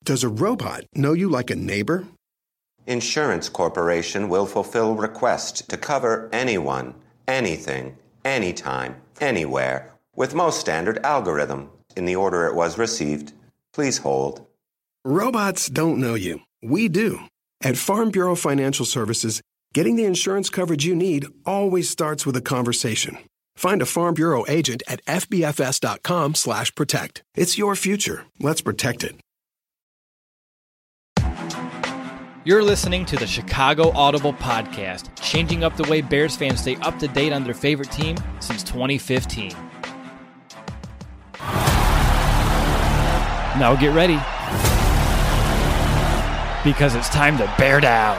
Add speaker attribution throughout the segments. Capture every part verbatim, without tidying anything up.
Speaker 1: Does a robot know you like a neighbor?
Speaker 2: Insurance Corporation will fulfill requests to cover anyone, anything, anytime, anywhere, with most standard algorithm in the order it was received. Please hold.
Speaker 1: Robots don't know you. We do. At Farm Bureau Financial Services, getting the insurance coverage you need always starts with a conversation. Find a Farm Bureau agent at F B F S dot com slash protect. It's your future. Let's protect it.
Speaker 3: You're listening to the Chicago Audible Podcast, changing up the way Bears fans stay up to date on their favorite team since twenty fifteen. Now get ready, because it's time to bear down.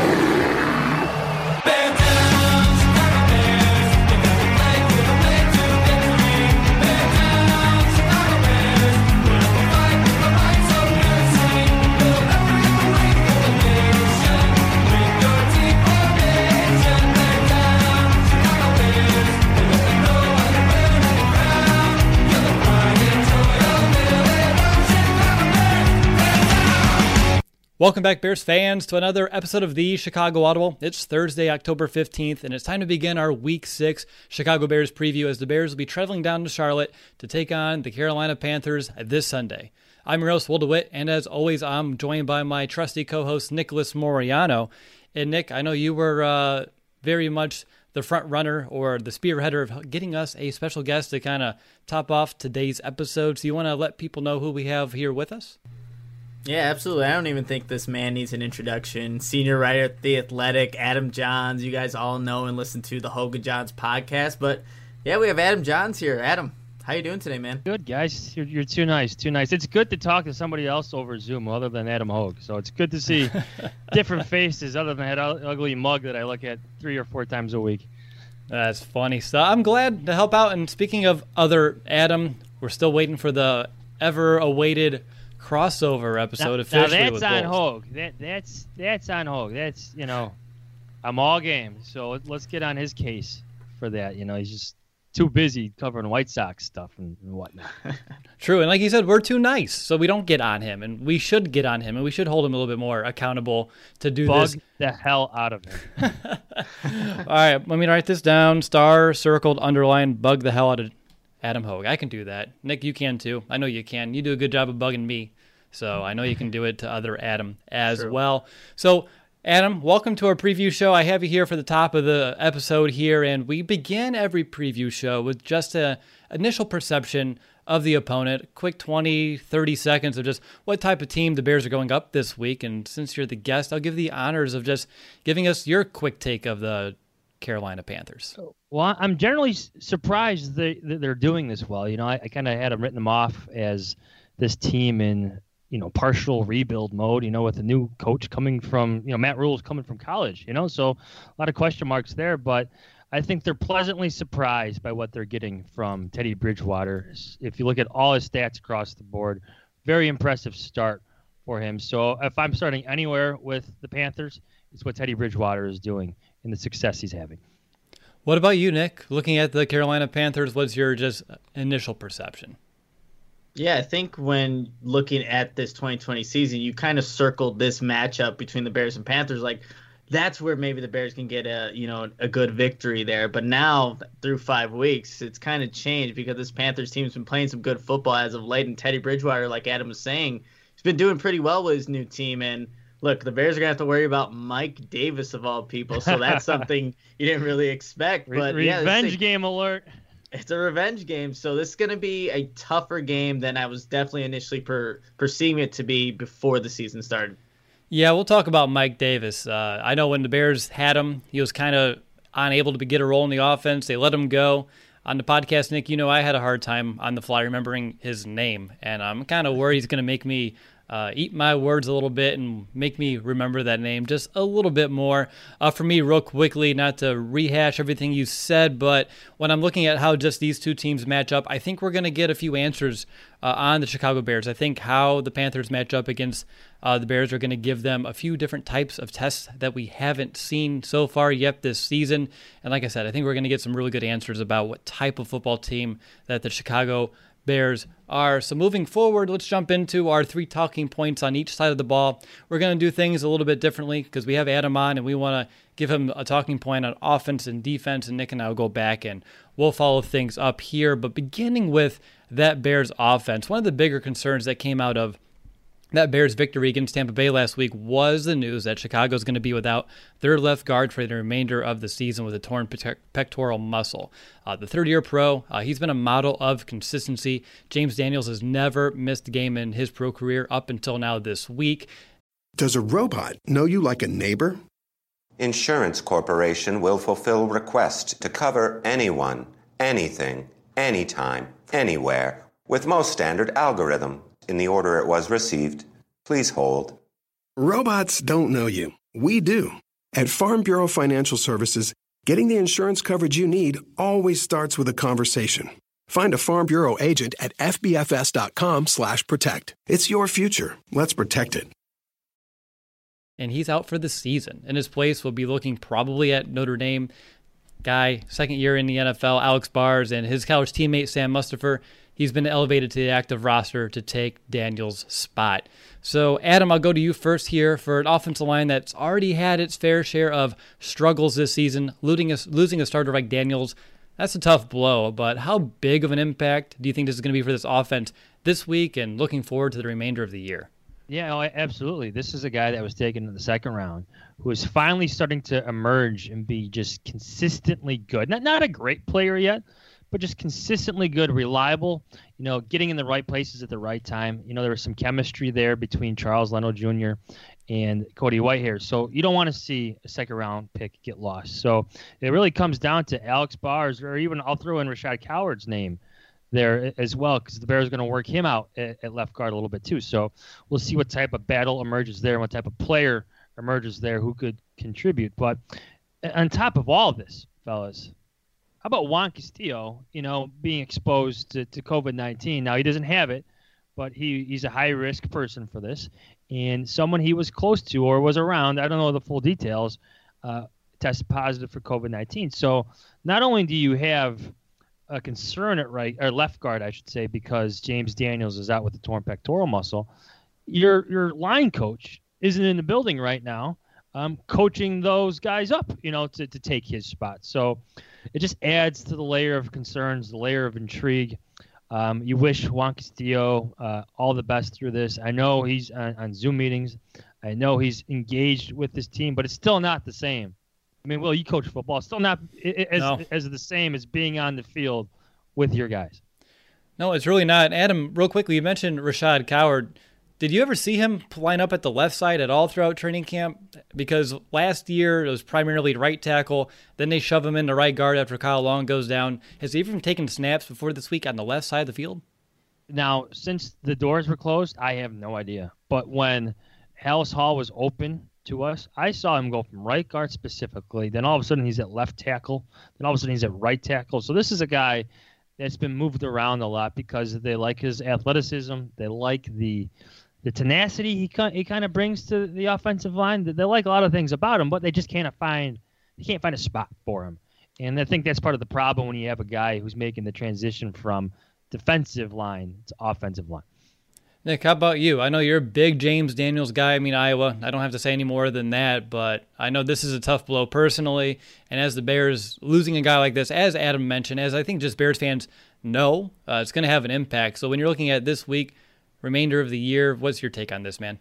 Speaker 3: Welcome back, Bears fans, to another episode of the Chicago Audible. It's Thursday, October fifteenth, and it's time to begin our Week six Chicago Bears preview as the Bears will be traveling down to Charlotte to take on the Carolina Panthers this Sunday. I'm your host, Will DeWitt, and as always, I'm joined by my trusty co-host, Nicholas Moriano. And Nick, I know you were uh, very much the front runner or the spearheader of getting us a special guest to kind of top off today's episode. So you want to let people know who we have here with us?
Speaker 4: Yeah, absolutely. I don't even think this man needs an introduction. Senior writer at The Athletic, Adam Johns. You guys all know and listen to the Hogan Johns podcast. But, yeah, we have Adam Johns here. Adam, how you doing today, man?
Speaker 5: Good, guys. You're, you're too nice, too nice. It's good to talk to somebody else over Zoom other than Adam Hogue. So it's good to see different faces other than that ugly mug that I look at three or four times a week.
Speaker 3: That's funny stuff. I'm glad to help out. And speaking of other Adam, we're still waiting for the ever-awaited crossover episode
Speaker 5: now,
Speaker 3: officially
Speaker 5: now that's
Speaker 3: with
Speaker 5: on
Speaker 3: Bulls.
Speaker 5: Hogue. That that's that's on Hogue. That's you know, I'm all game. So let's get on his case for that. You know, he's just too busy covering White Sox stuff and, and whatnot.
Speaker 3: True, and like you said, we're too nice, so we don't get on him, and we should get on him, and we should hold him a little bit more accountable to do
Speaker 5: Bug
Speaker 3: this.
Speaker 5: the hell out of him.
Speaker 3: All right, let me write this down. Star, circled, underlined, bug the hell out of Adam Hogue. I can do that. Nick, you can too. I know you can. You do a good job of bugging me, so I know you can do it to other Adam as
Speaker 4: True.
Speaker 3: well. So, Adam, welcome to our preview show. I have you here for the top of the episode here, and we begin every preview show with just an initial perception of the opponent, quick twenty, thirty seconds of just what type of team the Bears are going up this week. And since you're the guest, I'll give the honors of just giving us your quick take of the Carolina Panthers.
Speaker 5: Well, I'm generally surprised that they're doing this well. You know, I, I kind of had them written them off as this team in, you know, partial rebuild mode, you know, with a new coach coming from, you know, Matt Rule's coming from college, you know, so a lot of question marks there. But I think they're pleasantly surprised by what they're getting from Teddy Bridgewater. If you look at all his stats across the board, very impressive start for him. So if I'm starting anywhere with the Panthers, it's what Teddy Bridgewater is doing and the success he's having.
Speaker 3: What about you, Nick? Looking at the Carolina Panthers, what's your just initial perception?
Speaker 4: Yeah, I think when looking at this twenty twenty season, you kind of circled this matchup between the Bears and Panthers. Like, that's where maybe the Bears can get a, you know, a good victory there. But now, through five weeks, it's kind of changed because this Panthers team's been playing some good football as of late. And Teddy Bridgewater, like Adam was saying, he's been doing pretty well with his new team. And look, the Bears are going to have to worry about Mike Davis of all people. So that's something you didn't really expect. But
Speaker 5: Re-
Speaker 4: yeah,
Speaker 5: revenge
Speaker 4: thing,
Speaker 5: game alert.
Speaker 4: It's a revenge game. So this is going to be a tougher game than I was definitely initially per, perceiving it to be before the season started.
Speaker 3: Yeah, we'll talk about Mike Davis. Uh, I know when the Bears had him, he was kind of unable to get a role in the offense. They let him go. On the podcast, Nick, you know I had a hard time on the fly remembering his name, and I'm kind of worried he's going to make me uh, eat my words a little bit and make me remember that name just a little bit more. Uh, for me, real quickly, not to rehash everything you said, but when I'm looking at how just these two teams match up, I think we're going to get a few answers uh, on the Chicago Bears. I think how the Panthers match up against uh, the Bears are going to give them a few different types of tests that we haven't seen so far yet this season. And like I said, I think we're going to get some really good answers about what type of football team that the Chicago Bears are. So moving forward, let's jump into our three talking points on each side of the ball. We're going to do things a little bit differently because we have Adam on and we want to give him a talking point on offense and defense, and Nick and I will go back and we'll follow things up here. But beginning with that Bears offense, one of the bigger concerns that came out of that Bears victory against Tampa Bay last week was the news that Chicago is going to be without their left guard for the remainder of the season with a torn pectoral muscle. Uh, the third-year pro, uh, he's been a model of consistency. James Daniels has never missed a game in his pro career up until now this week.
Speaker 1: Does a robot know you like a neighbor?
Speaker 2: Insurance Corporation will fulfill requests to cover anyone, anything, anytime, anywhere, with most standard algorithm. In the order it was received, please hold.
Speaker 1: Robots don't know you. We do. At Farm Bureau Financial Services, getting the insurance coverage you need always starts with a conversation. Find a Farm Bureau agent at fbfs.com slash protect. It's your future. Let's protect it.
Speaker 3: And he's out for the season. In his place, we'll be looking probably at Notre Dame guy, second year in the N F L, Alex Bars, and his college teammate, Sam Mustipher. He's been elevated to the active roster to take Daniels' spot. So, Adam, I'll go to you first here for an offensive line that's already had its fair share of struggles this season. Losing a, losing a starter like Daniels, that's a tough blow, but how big of an impact do you think this is going to be for this offense this week and looking forward to the remainder of the year?
Speaker 5: Yeah, oh, absolutely. This is a guy that was taken in the second round who is finally starting to emerge and be just consistently good. Not, not a great player yet, but just consistently good, reliable, you know, getting in the right places at the right time. You know, there was some chemistry there between Charles Leno Junior and Cody Whitehair. So you don't want to see a second round pick get lost. So it really comes down to Alex Bars, or even I'll throw in Rashad Coward's name there as well, because the Bears are going to work him out at, at left guard a little bit too. So we'll see what type of battle emerges there and what type of player emerges there who could contribute. But on top of all of this, fellas, how about Juan Castillo, you know, being exposed to, to covid nineteen? Now, he doesn't have it, but he, he's a high-risk person for this. And someone he was close to or was around, I don't know the full details, uh, tested positive for covid nineteen. So not only do you have a concern at right or left guard, I should say, because James Daniels is out with the torn pectoral muscle, your your line coach isn't in the building right now, um, coaching those guys up, you know, to, to take his spot. So it just adds to the layer of concerns, the layer of intrigue. Um, you wish Juan Castillo uh, all the best through this. I know he's on, on Zoom meetings. I know he's engaged with this team, but it's still not the same. I mean, Will, you coach football. It's still not as, no. as the same as being on the field with your guys.
Speaker 3: No, it's really not. Adam, real quickly, you mentioned Rashad Coward. Did you ever see him line up at the left side at all throughout training camp? Because last year it was primarily right tackle. Then they shove him into right guard after Kyle Long goes down. Has he even taken snaps before this week on the left side of the field?
Speaker 5: Now, since the doors were closed, I have no idea. But when Halas Hall was open to us, I saw him go from right guard specifically. Then all of a sudden he's at left tackle. Then all of a sudden he's at right tackle. So this is a guy that's been moved around a lot because they like his athleticism. They like the the tenacity he he kind of brings to the offensive line. They like a lot of things about him, but they just can't find they can't find a spot for him. And I think that's part of the problem when you have a guy who's making the transition from defensive line to offensive line.
Speaker 3: Nick, how about you? I know you're a big James Daniels guy. I mean, Iowa. I don't have to say any more than that, but I know this is a tough blow personally. And as the Bears losing a guy like this, as Adam mentioned, as I think just Bears fans know, uh, it's going to have an impact. So when you're looking at this week, remainder of the year, what's your take on this, man?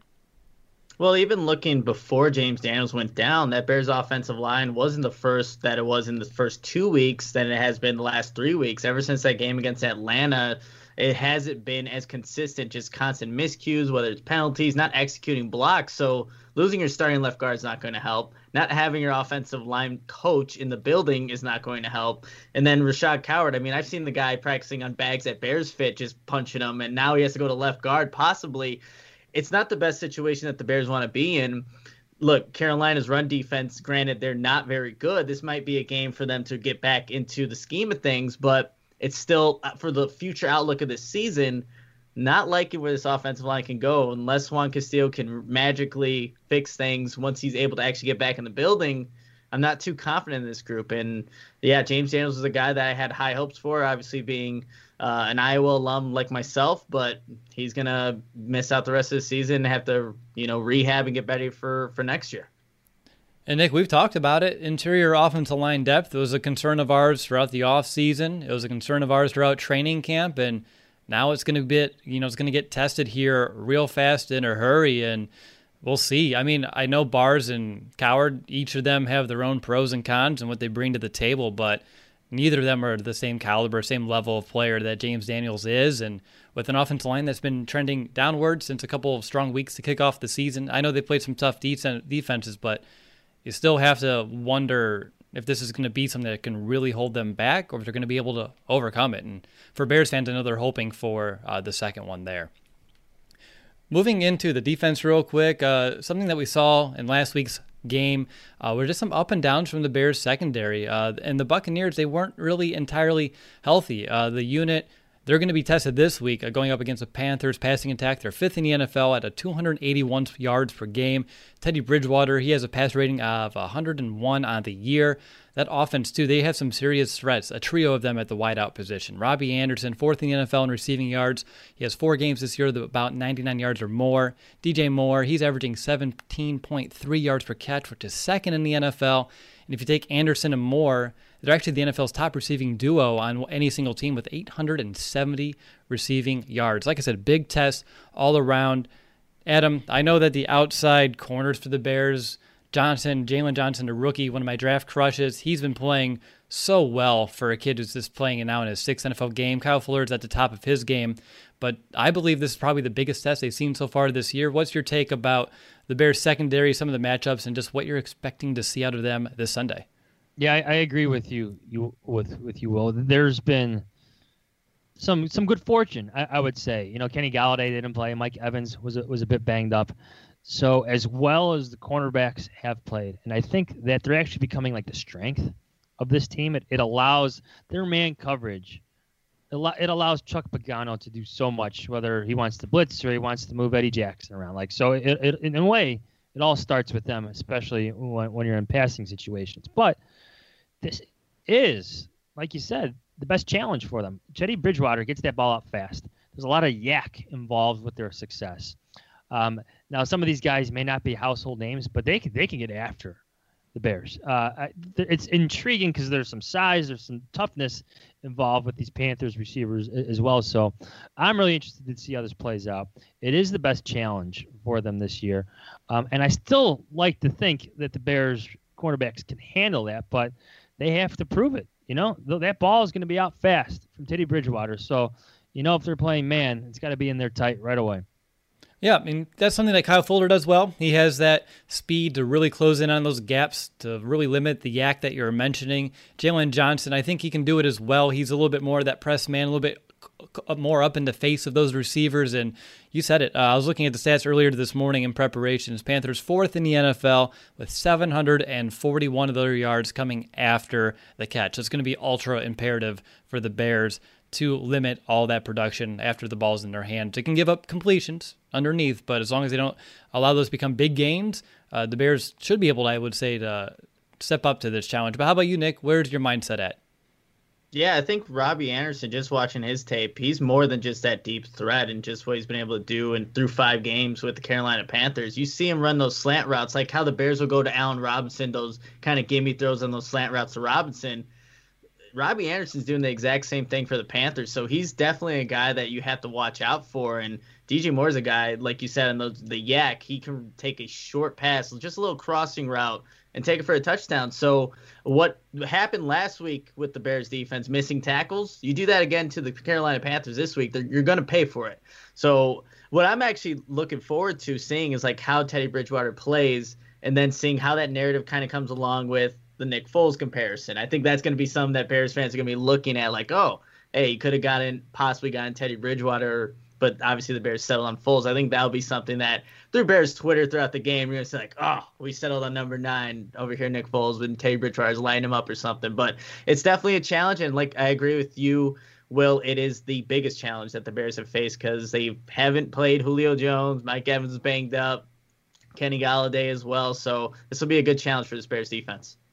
Speaker 4: Well, even looking before James Daniels went down, that Bears offensive line wasn't the first that it was in the first two weeks than it has been the last three weeks. Ever since that game against Atlanta, it hasn't been as consistent, just constant miscues, whether it's penalties, not executing blocks. So losing your starting left guard is not going to help. Not having your offensive line coach in the building is not going to help. And then Rashad Coward, I mean, I've seen the guy practicing on bags at Bears Fit, just punching them, and now he has to go to left guard possibly. It's not the best situation that the Bears want to be in. Look, Carolina's run defense, granted, they're not very good. This might be a game for them to get back into the scheme of things, but it's still, for the future outlook of this season, not liking where this offensive line can go unless Juan Castillo can magically fix things once he's able to actually get back in the building. I'm not too confident in this group. And yeah, James Daniels is a guy that I had high hopes for, obviously being uh, an Iowa alum like myself, but he's going to miss out the rest of the season and have to, you know, rehab and get ready for, for next year.
Speaker 3: And Nick, we've talked about it. Interior offensive line depth was a concern of ours throughout the offseason. It was a concern of ours throughout training camp, and now it's going to be, you know, it's going to get tested here real fast in a hurry, and we'll see. I mean, I know Bars and Coward, each of them have their own pros and cons and what they bring to the table, but neither of them are the same caliber, same level of player that James Daniels is, and with an offensive line that's been trending downward since a couple of strong weeks to kick off the season. I know they played some tough defenses, but you still have to wonder if this is going to be something that can really hold them back or if they're going to be able to overcome it. And for Bears fans, I know they're hoping for uh, the second one there. Moving into the defense real quick, uh, something that we saw in last week's game uh, were just some up and downs from the Bears secondary. Uh, and the Buccaneers, they weren't really entirely healthy. Uh, the unit, they're going to be tested this week uh, going up against the Panthers passing attack. They're fifth in the N F L at a two hundred eighty-one yards per game. Teddy Bridgewater, he has a pass rating of one hundred one on the year. That offense, too, they have some serious threats, a trio of them at the wideout position. Robbie Anderson, fourth in the N F L in receiving yards. He has four games this year with about ninety-nine yards or more. D J Moore, he's averaging seventeen point three yards per catch, which is second in the N F L. And if you take Anderson and Moore, they're actually the N F L's top receiving duo on any single team with eight hundred seventy receiving yards. Like I said, big test all around. Adam, I know that the outside corners for the Bears, Johnson, Jalen Johnson, a rookie, one of my draft crushes, he's been playing so well for a kid who's just playing now in his sixth N F L game. Kyle Fuller's at the top of his game, but I believe this is probably the biggest test they've seen so far this year. What's your take about the Bears secondary, some of the matchups, and just what you're expecting to see out of them this Sunday?
Speaker 5: Yeah, I, I agree with you. You with with you, Will. There's been some some good fortune, I, I would say. You know, Kenny Galladay didn't play. Mike Evans was a, was a bit banged up. So as well as the cornerbacks have played, and I think that they're actually becoming like the strength of this team. It it allows their man coverage. It allows Chuck Pagano to do so much, whether he wants to blitz or he wants to move Eddie Jackson around. Like so, it, it, in a way, it all starts with them, especially when, when you're in passing situations. But this is, like you said, the best challenge for them. Teddy Bridgewater gets that ball out fast. There's a lot of yak involved with their success. Um, now, some of these guys may not be household names, but they can, they can get after the Bears. Uh, it's intriguing because there's some size, there's some toughness involved with these Panthers receivers as well. So I'm really interested to see how this plays out. It is the best challenge for them this year. Um, and I still like to think that the Bears cornerbacks can handle that, but they have to prove it. You know, that ball is going to be out fast from Teddy Bridgewater. So, you know, if they're playing man, it's got to be in there tight right away.
Speaker 3: Yeah, I mean, that's something that Kyle Fuller does well. He has that speed to really close in on those gaps, to really limit the yak that you're mentioning. Jalen Johnson, I think he can do it as well. He's a little bit more of that press man, a little bit more up in the face of those receivers. And you said it. Uh, I was looking at the stats earlier this morning in preparations. Panthers fourth in the N F L with seven hundred forty-one of their yards coming after the catch. So it's going to be ultra imperative for the Bears to limit all that production after the ball's in their hand. They can give up completions underneath, but as long as they don't allow those to become big gains, uh, the Bears should be able to, I would say, to step up to this challenge. But how about you, Nick? Where's your mindset at?
Speaker 4: Yeah, I think Robbie Anderson, just watching his tape, he's more than just that deep threat and just what he's been able to do and through five games with the Carolina Panthers. You see him run those slant routes, like how the Bears will go to Allen Robinson, those kind of gimme throws on those slant routes to Robinson. Robbie Anderson's doing the exact same thing for the Panthers, so he's definitely a guy that you have to watch out for. And D J Moore's a guy, like you said, in the, the yak, he can take a short pass, just a little crossing route, and take it for a touchdown. So what happened last week with the Bears defense, missing tackles, you do that again to the Carolina Panthers this week, you're going to pay for it. So what I'm actually looking forward to seeing is like how Teddy Bridgewater plays, and then seeing how that narrative kind of comes along with the Nick Foles comparison. I think that's going to be something that Bears fans are going to be looking at, like, oh, hey, you could have gotten, possibly gotten Teddy Bridgewater, but obviously the Bears settled on Foles. I think that'll be something that through Bears Twitter throughout the game, you're going to say, like, oh, we settled on number nine over here, Nick Foles, when Teddy Bridgewater's lining him up or something. But it's definitely a challenge, and like I agree with you, Will, it is the biggest challenge that the Bears have faced because they haven't played Julio Jones, Mike Evans is banged up, Kenny Galladay as well. So this will be a good challenge for this Bears defense.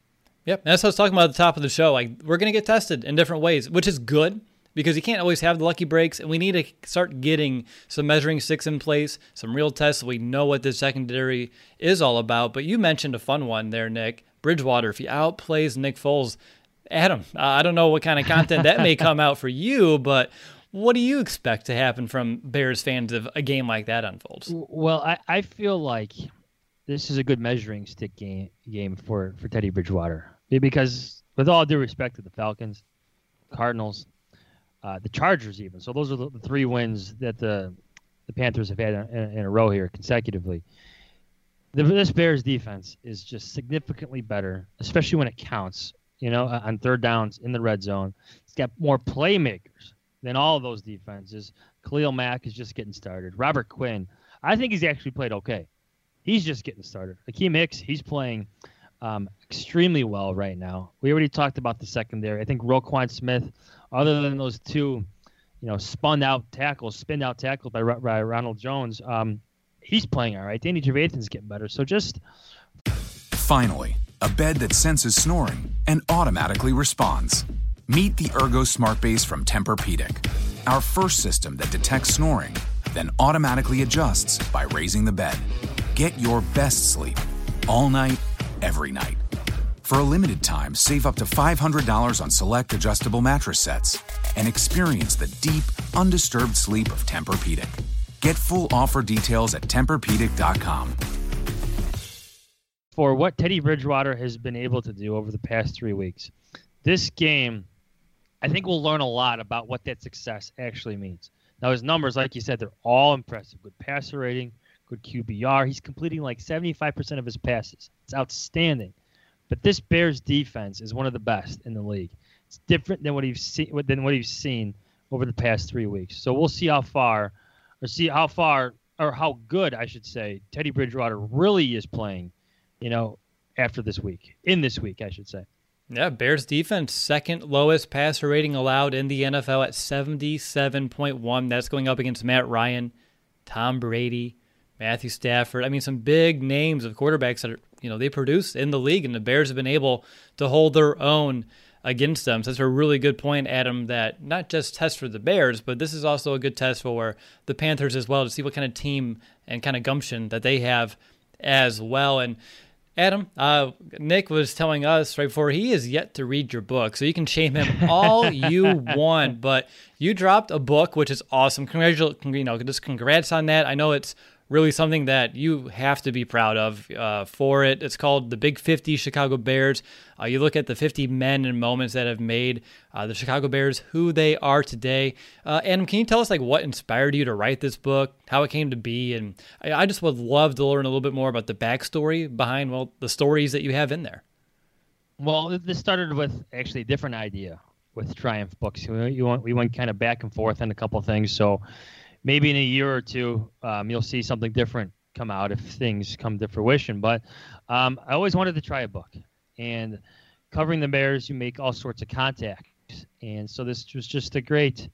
Speaker 3: Yep, that's what I was talking about at the top of the show. Like, we're going to get tested in different ways, which is good because you can't always have the lucky breaks, and we need to start getting some measuring sticks in place, some real tests so we know what this secondary is all about. But you mentioned a fun one there, Nick. Bridgewater, if he outplays Nick Foles, Adam, uh, I don't know what kind of content that may come out for you, but what do you expect to happen from Bears fans if a game like that unfolds?
Speaker 5: Well, I, I feel like this is a good measuring stick game game for, for Teddy Bridgewater. Because with all due respect to the Falcons, Cardinals, uh, the Chargers even, so those are the, the three wins that the the Panthers have had in, in a row here consecutively. The, this Bears defense is just significantly better, especially when it counts, you know, on third downs in the red zone. It's got more playmakers than all of those defenses. Khalil Mack is just getting started. Robert Quinn, I think he's actually played okay. He's just getting started. Akeem Hicks, he's playing um, extremely well right now. We already talked about the secondary. I think Roquan Smith, other than those two, you know, spun out tackles, spin out tackles by, by Ronald Jones, um, he's playing all right. Danny Trevathan's getting better. So just
Speaker 6: finally, a bed that senses snoring and automatically responds. Meet the Ergo Smart Base from Tempur-Pedic, our first system that detects snoring, then automatically adjusts by raising the bed. Get your best sleep all night, every night. For a limited time, save up to five hundred dollars on select adjustable mattress sets and experience the deep, undisturbed sleep of Tempur-Pedic. Get full offer details at Tempur Pedic dot com.
Speaker 5: For what Teddy Bridgewater has been able to do over the past three weeks, this game, I think we'll learn a lot about what that success actually means. Now, his numbers, like you said, they're all impressive. Good passer rating, good Q B R. He's completing like seventy-five percent of his passes. It's outstanding. But this Bears defense is one of the best in the league. It's different than what he's seen than what he's seen over the past three weeks. So we'll see how far, or see how far, or how good, I should say, Teddy Bridgewater really is playing, you know, after this week. In this week, I should say.
Speaker 3: Yeah, Bears defense, second lowest passer rating allowed in the N F L at seventy-seven point one. That's going up against Matt Ryan, Tom Brady, Matthew Stafford. I mean, some big names of quarterbacks that are, you know, they produce in the league, and the Bears have been able to hold their own against them. So that's a really good point, Adam, that not just test for the Bears, but this is also a good test for the Panthers as well to see what kind of team and kind of gumption that they have as well. And Adam, uh, Nick was telling us right before he is yet to read your book, so you can shame him all you want, but you dropped a book, which is awesome. Congratulations, you know, just congrats on that. I know it's really something that you have to be proud of uh, for it. It's called The Big fifty Chicago Bears. Uh, you look at the fifty men and moments that have made uh, the Chicago Bears who they are today. Uh, Adam, can you tell us like what inspired you to write this book, how it came to be? And I, I just would love to learn a little bit more about the backstory behind, well, the stories that you have in there.
Speaker 5: Well, this started with actually a different idea with Triumph Books. We, you went, we went kind of back and forth on a couple of things. So maybe in a year or two, um, you'll see something different come out if things come to fruition. But um, I always wanted to try a book. And covering the Bears, you make all sorts of contacts. And so this was just a great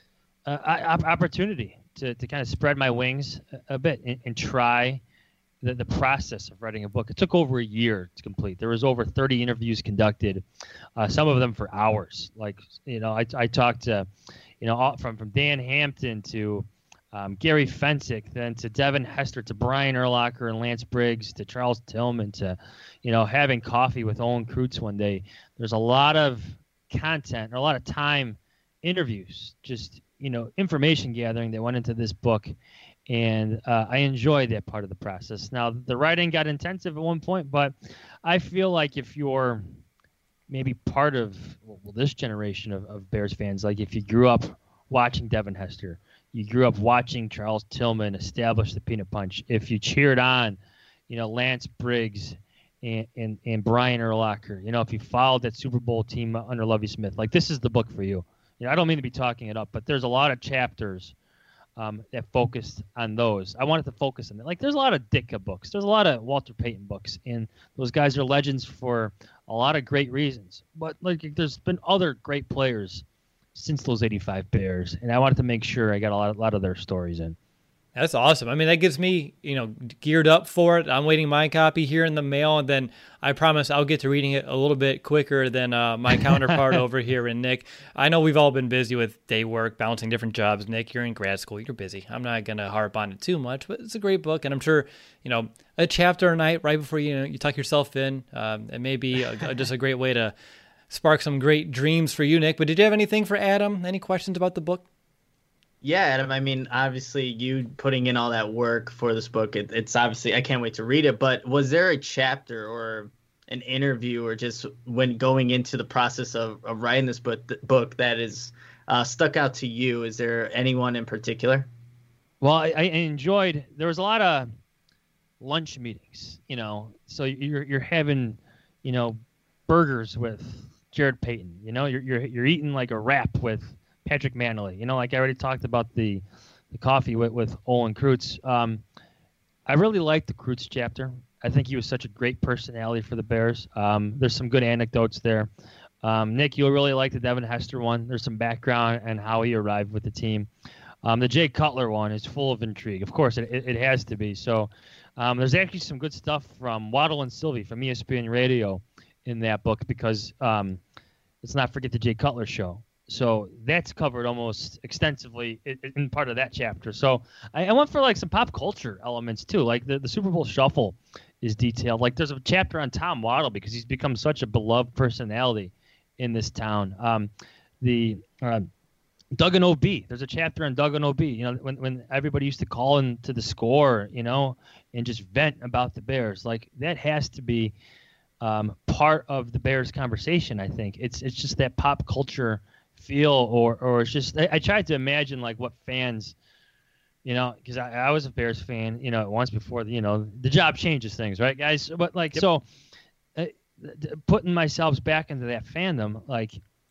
Speaker 5: uh, opportunity to, to kind of spread my wings a, a bit and, and try the, the process of writing a book. It took over a year to complete. There was over thirty interviews conducted, uh, some of them for hours. Like, you know, I, I talked to, you know, all, from, from Dan Hampton to Um, Gary Fensick, then to Devin Hester, to Brian Urlacher and Lance Briggs, to Charles Tillman, to, you know, having coffee with Owen Kreutz one day. There's a lot of content, or a lot of time, interviews, just, you know, information gathering that went into this book. And uh, I enjoyed that part of the process. Now, the writing got intensive at one point, but I feel like if you're maybe part of well, this generation of, of Bears fans, like if you grew up watching Devin Hester, you grew up watching Charles Tillman establish the Peanut Punch, if you cheered on, you know, Lance Briggs and, and, and Brian Urlacher, you know, if you followed that Super Bowl team under Lovie Smith, like this is the book for you. You know, I don't mean to be talking it up, but there's a lot of chapters um, that focused on those. I wanted to focus on that. Like there's a lot of Ditka books. There's a lot of Walter Payton books, and those guys are legends for a lot of great reasons. But like there's been other great players since those eighty-five Bears, and I wanted to make sure I got a lot, a lot of their stories in.
Speaker 3: That's awesome. I mean, that gets me, you know, geared up for it. I'm waiting my copy here in the mail, and then I promise I'll get to reading it a little bit quicker than uh, my counterpart over here in Nick. I know we've all been busy with day work, balancing different jobs. Nick, you're in grad school. You're busy. I'm not going to harp on it too much, but it's a great book, and I'm sure, you know, a chapter a night right before you know, you tuck yourself in, um, it may be a, a, just a great way to spark some great dreams for you, Nick. But did you have anything for Adam? Any questions about the book?
Speaker 4: Yeah, Adam, I mean, obviously you putting in all that work for this book, it, it's obviously, I can't wait to read it, but was there a chapter or an interview or just when going into the process of, of writing this book, book that is uh, stuck out to you? Is there anyone in particular?
Speaker 5: Well, I, I enjoyed, there was a lot of lunch meetings, you know, so you're you're having, you know, burgers with Jared Payton, you know, you're you're you're eating like a wrap with Patrick Manley, you know, like I already talked about the the coffee with, with Olin Kreutz. Um, I really liked the Kreutz chapter. I think he was such a great personality for the Bears. Um, there's some good anecdotes there. Um, Nick, you'll really like the Devin Hester one. There's some background and how he arrived with the team. Um, the Jay Cutler one is full of intrigue. Of course, it, it, it has to be. So um, there's actually some good stuff from Waddle and Sylvie from E S P N Radio in that book because um, let's not forget the Jay Cutler show. So that's covered almost extensively in, in part of that chapter. So I, I went for like some pop culture elements too. Like the, the Super Bowl Shuffle is detailed. Like there's a chapter on Tom Waddle because he's become such a beloved personality in this town. Um, the uh, Doug and O B. There's a chapter on Doug and O B. You know, when when everybody used to call into the score, you know, and just vent about the Bears. Like that has to be um, part of the Bears conversation. I think it's it's just that pop culture feel, or or it's just I, I tried to imagine like what fans, you know, because I, I was a Bears fan, you know, once before. You know, the job changes things, right, guys? But like yep. so, uh, putting myself back into that fandom, like.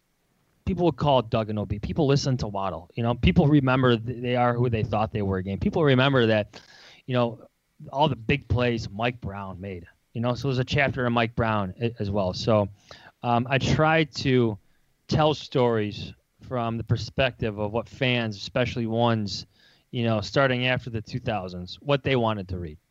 Speaker 5: People would call Doug and O B. People listen to Waddle. You know, people remember they are who they thought they were again. People remember that, you know, all the big plays Mike Brown made. You know, so there's a chapter on Mike Brown as well. So um, I tried to tell stories from the perspective of what fans, especially ones, you know, starting after the two thousands, what they wanted to read.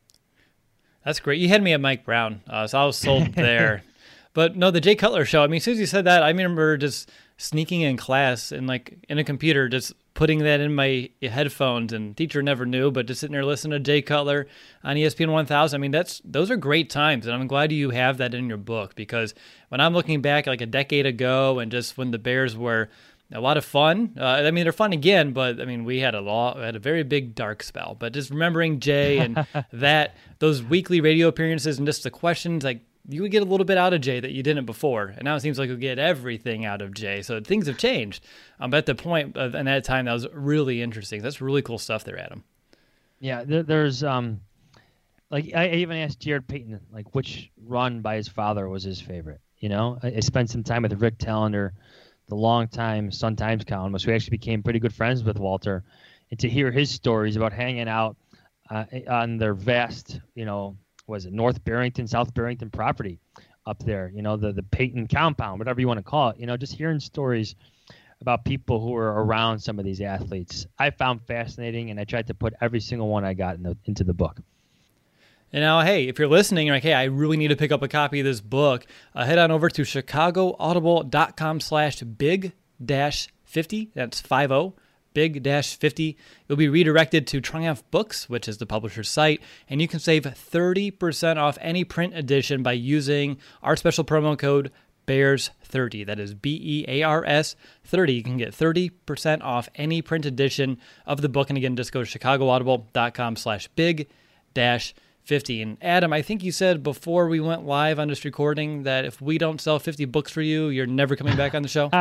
Speaker 3: That's great. You had me at Mike Brown, uh, so I was sold there. But no, the Jay Cutler show, I mean, as soon as you said that, I remember just sneaking in class and like in a computer, just putting that in my headphones, and teacher never knew, but just sitting there listening to Jay Cutler on E S P N one thousand. I mean, that's those are great times, and I'm glad you have that in your book, because when I'm looking back like a decade ago and just when the Bears were a lot of fun, uh, I mean, they're fun again, but I mean, we had a lot, had a very big dark spell, but just remembering Jay and that, those weekly radio appearances and just the questions, like, you would get a little bit out of Jay that you didn't before, and now it seems like you get everything out of Jay. So things have changed. Um, but at the point of, and at that time, that was really interesting. That's really cool stuff there, Adam.
Speaker 5: Yeah, there, there's um, like I even asked Jared Payton like which run by his father was his favorite. You know, I, I spent some time with Rick Tellender, the longtime Sun Times columnist, who actually became pretty good friends with Walter, and to hear his stories about hanging out uh, on their vast, you know. Was it North Barrington, South Barrington property up there, you know, the, the Payton compound, whatever you want to call it, you know, just hearing stories about people who were around some of these athletes, I found fascinating, and I tried to put every single one I got in the, into the book.
Speaker 3: And now, hey, if you're listening, you're like, hey, I really need to pick up a copy of this book, uh, head on over to chicagoaudible.com slash big dash 50. That's five oh. Big fifty. You'll be redirected to Triumph Books, which is the publisher's site, and you can save thirty percent off any print edition by using our special promo code Bears thirty. That is B E A R S thirty. You can get thirty percent off any print edition of the book. And again, just go to chicagoaudible.com slash big dash 50. And Adam, I think you said before we went live on this recording that if we don't sell fifty books for you, you're never coming back on the show.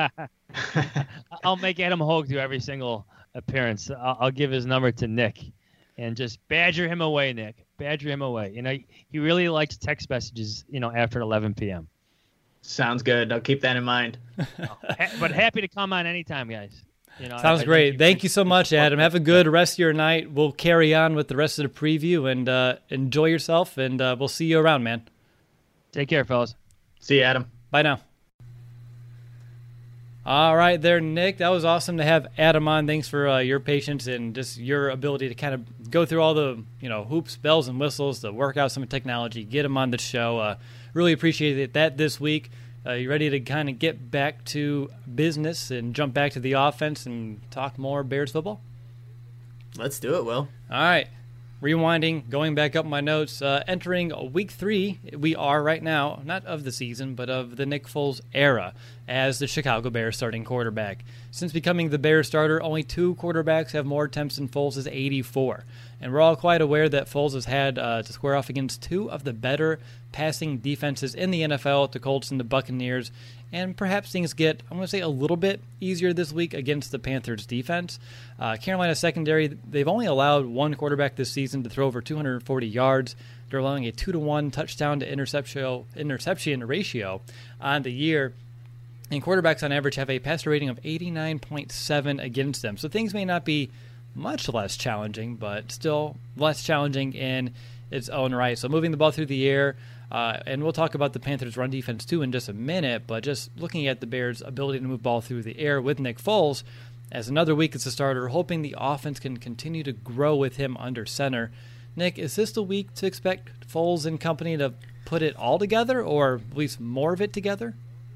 Speaker 5: I'll make Adam Hogue do every single appearance. I'll, I'll give his number to Nick and just badger him away, Nick. Badger him away. You know, he really likes text messages, you know, after eleven p.m.
Speaker 4: Sounds good. I'll keep that in mind.
Speaker 5: But happy to come on anytime, guys. You know,
Speaker 3: Sounds
Speaker 5: I, I
Speaker 3: great.
Speaker 5: you
Speaker 3: Thank you so much, Adam. Have a good rest of your night. We'll carry on with the rest of the preview, and uh, enjoy yourself, and uh, we'll see you around, man.
Speaker 5: Take care, fellas.
Speaker 4: See you, Adam.
Speaker 3: Bye now. All right there, Nick. That was awesome to have Adam on. Thanks for uh, your patience and just your ability to kind of go through all the, you know, hoops, bells, and whistles to work out some technology, get him on the show. Uh, really appreciated that this week. Uh, you ready to kind of get back to business and jump back to the offense and talk more Bears football?
Speaker 4: Let's do it, Will.
Speaker 3: All right. Rewinding, going back up my notes, uh, entering week three, we are right now, not of the season, but of the Nick Foles era as the Chicago Bears starting quarterback. Since becoming the Bears starter, only two quarterbacks have more attempts than Foles' eighty-four. And we're all quite aware that Foles has had uh, to square off against two of the better passing defenses in the N F L, the Colts and the Buccaneers. And perhaps things get, I'm going to say, a little bit easier this week against the Panthers' defense. Uh, Carolina secondary, they've only allowed one quarterback this season to throw over two hundred forty yards. They're allowing a two to one touchdown to interception, interception ratio on the year. And quarterbacks on average have a passer rating of eighty-nine point seven against them. So things may not be much less challenging, but still less challenging in its own right. So moving the ball through the air, Uh, and we'll talk about the Panthers' run defense, too, in just a minute. But just looking at the Bears' ability to move ball through the air with Nick Foles as another week as a starter, hoping the offense can continue to grow with him under center. Nick, is this the week to expect Foles and company to put it all together, or at least more of it together?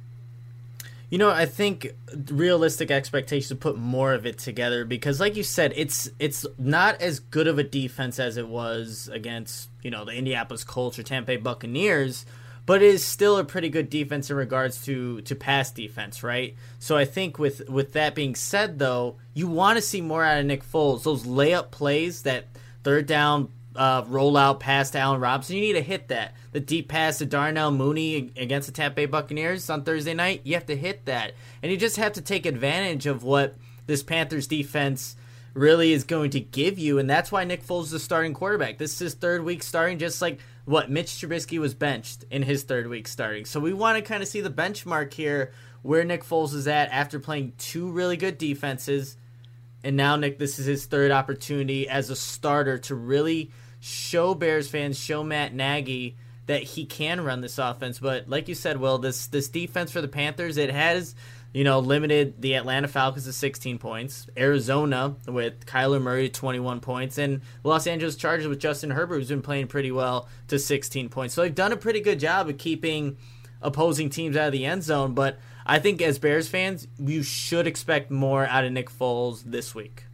Speaker 4: You know, I think realistic expectations to put more of it together because, like you said, it's it's not as good of a defense as it was against, you know, the Indianapolis Colts or Tampa Bay Buccaneers, but it is still a pretty good defense in regards to, to pass defense, right? So I think with, with that being said, though, you want to see more out of Nick Foles. Those layup plays, that third down uh, rollout pass to Allen Robinson, you need to hit that. The deep pass to Darnell Mooney against the Tampa Bay Buccaneers on Thursday night, you have to hit that. And you just have to take advantage of what this Panthers defense really is going to give you, and that's why Nick Foles is the starting quarterback. This is his third week starting, just like what Mitch Trubisky was benched in his third week starting. So we want to kind of see the benchmark here where Nick Foles is at after playing two really good defenses. And now, Nick, this is his third opportunity as a starter to really show Bears fans, show Matt Nagy that he can run this offense. But like you said, Will, this this defense for the Panthers, it has, you know, limited the Atlanta Falcons to sixteen points, Arizona with Kyler Murray to twenty-one points, and Los Angeles Chargers with Justin Herbert, who's been playing pretty well, to sixteen points. So they've done a pretty good job of keeping opposing teams out of the end zone. But I think as Bears fans, you should expect more out of Nick Foles this week.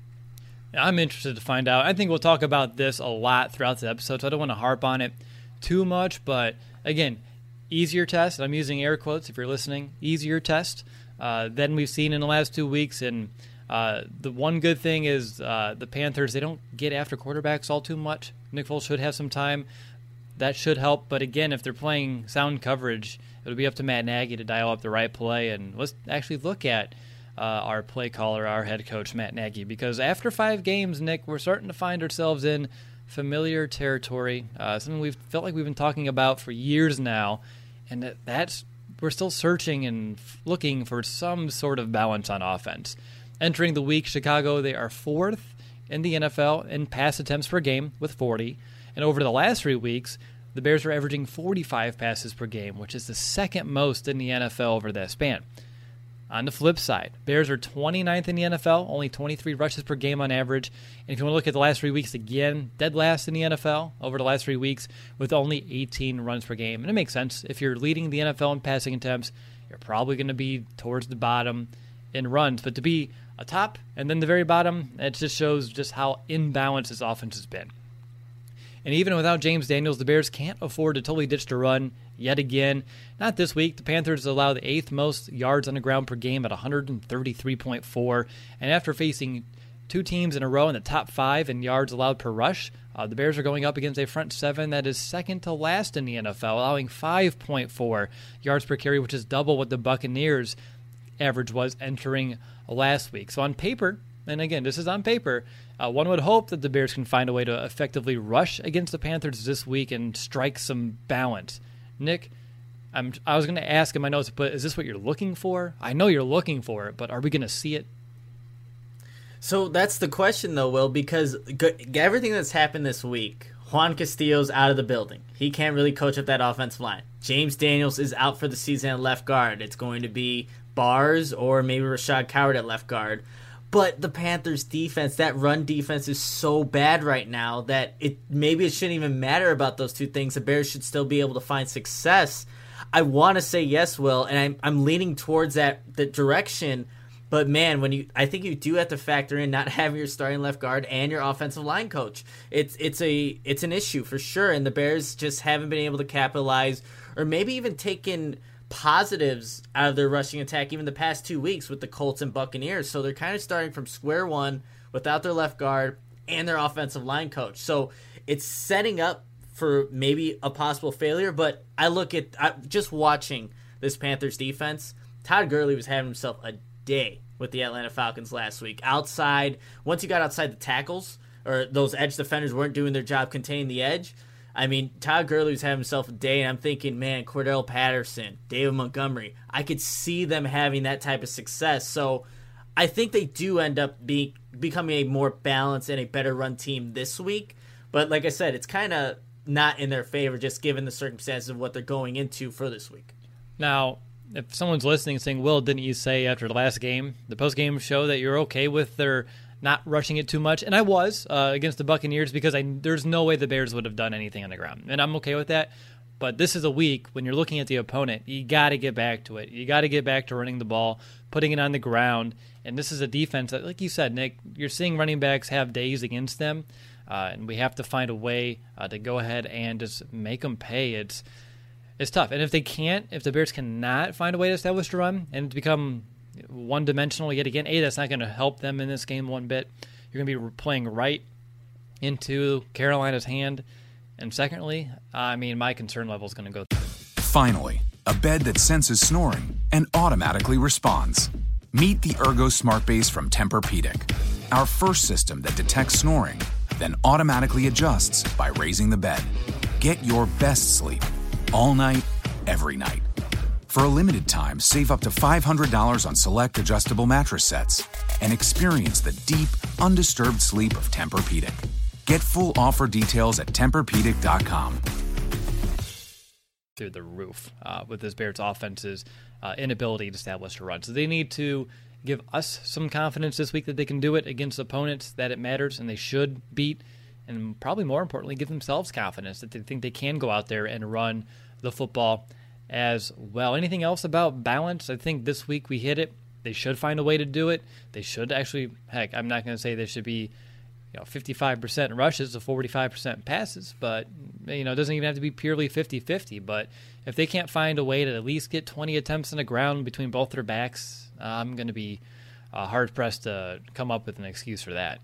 Speaker 3: I'm interested to find out. I think we'll talk about this a lot throughout the episode, so I don't want to harp on it too much. But again, easier test. I'm using air quotes if you're listening. Easier test uh, than we've seen in the last two weeks. And uh, the one good thing is uh, the Panthers, they don't get after quarterbacks all too much. Nick Foles should have some time. That should help. But again, if they're playing sound coverage, it'll be up to Matt Nagy to dial up the right play. And let's actually look at Uh, our play caller, our head coach, Matt Nagy, because after five games, Nick, we're starting to find ourselves in familiar territory, uh, something we've felt like we've been talking about for years now, and that, that's we're still searching and looking for some sort of balance on offense. Entering the week, Chicago, they are fourth in the N F L in pass attempts per game with forty, and over the last three weeks, the Bears are averaging forty-five passes per game, which is the second most in the N F L over that span. On the flip side, Bears are twenty-ninth in the N F L, only twenty-three rushes per game on average. And if you want to look at the last three weeks again, dead last in the N F L over the last three weeks with only eighteen runs per game. And it makes sense. If you're leading the N F L in passing attempts, you're probably going to be towards the bottom in runs. But to be a top and then the very bottom, it just shows just how imbalanced this offense has been. And even without James Daniels, the Bears can't afford to totally ditch the run yet again. Not this week. The Panthers allow the eighth most yards on the ground per game at one thirty-three point four. And after facing two teams in a row in the top five in yards allowed per rush, uh, the Bears are going up against a front seven that is second to last in the N F L, allowing five point four yards per carry, which is double what the Buccaneers' average was entering last week. So on paper, and again, this is on paper, uh, one would hope that the Bears can find a way to effectively rush against the Panthers this week and strike some balance. Nick, I'm, I was going to ask in my notes, but is this what you're looking for? I know you're looking for it, but are we going to see it?
Speaker 4: So that's the question, though, Will, because everything that's happened this week, Juan Castillo's out of the building. He can't really coach up that offensive line. James Daniels is out for the season at left guard. It's going to be Bars or maybe Rashad Coward at left guard. But the Panthers defense, that run defense is so bad right now that it maybe it shouldn't even matter about those two things. The Bears should still be able to find success. I want to say yes, Will, and I'm I'm leaning towards that the direction. But man, when you I think you do have to factor in not having your starting left guard and your offensive line coach. It's it's a it's an issue for sure, and the Bears just haven't been able to capitalize or maybe even taken positives out of their rushing attack even the past two weeks with the Colts and Buccaneers. So they're kind of starting from square one without their left guard and their offensive line coach. So it's setting up for maybe a possible failure. But I look at I, just watching this Panthers defense, Todd Gurley was having himself a day with the Atlanta Falcons last week. Outside, once you got outside the tackles or those edge defenders weren't doing their job containing the edge, I mean, Todd Gurley was having himself a day, and I'm thinking, man, Cordell Patterson, David Montgomery, I could see them having that type of success. So I think they do end up being becoming a more balanced and a better run team this week. But like I said, it's kind of not in their favor just given the circumstances of what they're going into for this week.
Speaker 3: Now, if someone's listening saying, Will, didn't you say after the last game, the post-game show, that you're okay with their not rushing it too much? And I was uh, against the Buccaneers because I, there's no way the Bears would have done anything on the ground. And I'm okay with that. But this is a week when you're looking at the opponent, you got to get back to it. You got to get back to running the ball, putting it on the ground. And this is a defense that, like you said, Nick, you're seeing running backs have days against them. Uh, and we have to find a way uh, to go ahead and just make them pay. It's it's tough. And if they can't, if the Bears cannot find a way to establish a run and become one-dimensional yet again, A, that's not going to help them in this game one bit. You're going to be playing right into Carolina's hand. And secondly, I mean, my concern level is going to go.
Speaker 6: Finally, a bed that senses snoring and automatically responds. Meet the Ergo Smart Base from Tempur-Pedic, our first system that detects snoring, then automatically adjusts by raising the bed. Get your best sleep all night, every night. For a limited time, save up to five hundred dollars on select adjustable mattress sets and experience the deep, undisturbed sleep of Tempur-Pedic. Get full offer details at Tempur Pedic dot com.
Speaker 3: Through the roof uh, with this Bears offense's uh, inability to establish a run. So they need to give us some confidence this week that they can do it against opponents that it matters and they should beat. And probably more importantly, give themselves confidence that they think they can go out there and run the football as well. Anything else about balance? I think this week we hit it. They should find a way to do it. They should actually, heck, I'm not going to say they should be, you know, fifty-five percent rushes to forty-five percent passes, but, you know, it doesn't even have to be purely fifty-fifty. But if they can't find a way to at least get twenty attempts on the ground between both their backs, uh, I'm going to be uh, hard-pressed to come up with an excuse for that.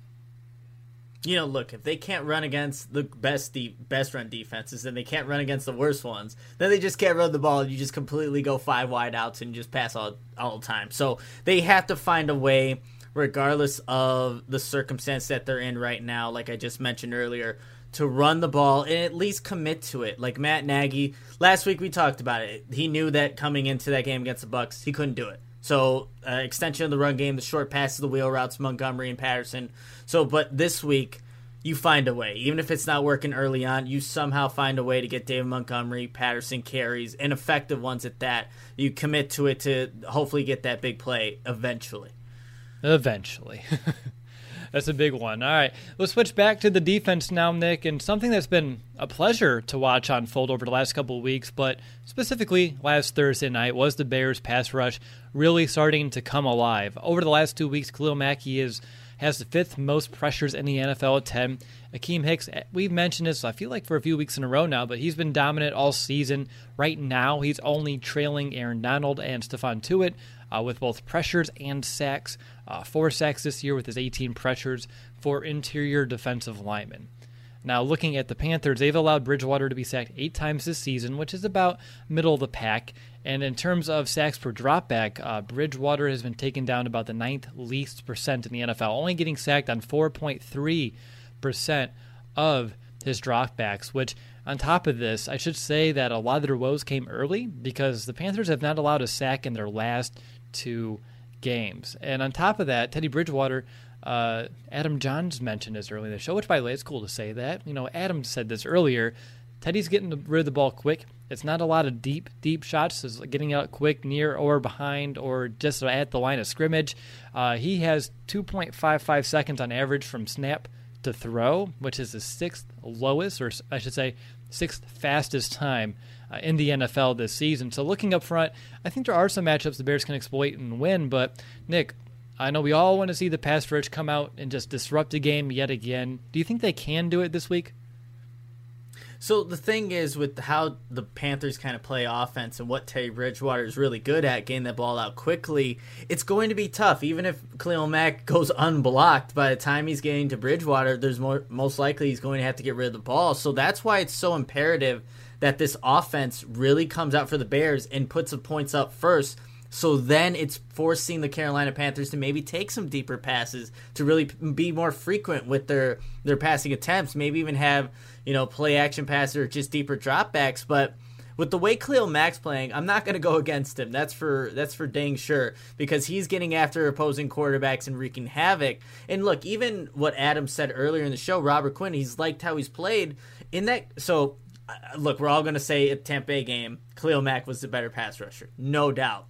Speaker 4: You know, look, if they can't run against the best de- best run defenses, then they can't run against the worst ones. Then they just can't run the ball, and you just completely go five wide outs and just pass all all the time. So they have to find a way, regardless of the circumstance that they're in right now, like I just mentioned earlier, to run the ball and at least commit to it. Like Matt Nagy, last week we talked about it. He knew that coming into that game against the Bucs, he couldn't do it. So uh, extension of the run game, the short passes, the wheel routes, Montgomery and Patterson. So, but this week, you find a way. Even if it's not working early on, you somehow find a way to get David Montgomery, Patterson carries, and effective ones at that. You commit to it to hopefully get that big play eventually.
Speaker 3: Eventually. That's a big one. All right, let's switch back to the defense now, Nick, and something that's been a pleasure to watch unfold over the last couple of weeks, but specifically last Thursday night, was the Bears' pass rush really starting to come alive. Over the last two weeks, Khalil Mack is has the fifth most pressures in the N F L at ten. Akeem Hicks, we've mentioned this, I feel like for a few weeks in a row now, but he's been dominant all season. Right now, he's only trailing Aaron Donald and Stephon Tuitt uh, with both pressures and sacks. Uh, four sacks this year with his eighteen pressures for interior defensive linemen. Now, looking at the Panthers, they've allowed Bridgewater to be sacked eight times this season, which is about middle of the pack. And in terms of sacks per dropback, uh, Bridgewater has been taken down about the ninth least percent in the N F L, only getting sacked on four point three percent of his dropbacks, which on top of this, I should say that a lot of their woes came early because the Panthers have not allowed a sack in their last two games. And on top of that, Teddy Bridgewater, uh, Adam Johns mentioned this earlier in the show, which, by the way, it's cool to say that. You know, Adam said this earlier. Teddy's getting rid of the ball quick. It's not a lot of deep, deep shots. It's getting out quick, near or behind, or just at the line of scrimmage. Uh, he has two point five five seconds on average from snap to throw, which is the sixth lowest, or I should say, sixth fastest time uh, in the N F L this season. So looking up front, I think there are some matchups the Bears can exploit and win. But Nick, I know we all want to see the pass rush come out and just disrupt the game yet again. Do you think they can do it this week?
Speaker 4: So the thing is, with how the Panthers kind of play offense and what Teddy Bridgewater is really good at, getting that ball out quickly, it's going to be tough. Even if Khalil Mack goes unblocked, by the time he's getting to Bridgewater, there's more, most likely he's going to have to get rid of the ball. So that's why it's so imperative that this offense really comes out for the Bears and puts the points up first. So then it's forcing the Carolina Panthers to maybe take some deeper passes, to really be more frequent with their, their passing attempts, maybe even have, you know, play action passes or just deeper dropbacks. But with the way Khalil Mack's playing, I'm not going to go against him. That's for that's for dang sure, because he's getting after opposing quarterbacks and wreaking havoc. And look, even what Adam said earlier in the show, Robert Quinn, he's liked how he's played in that. So uh, look, we're all going to say at the Tampa Bay game, Khalil Mack was the better pass rusher, no doubt.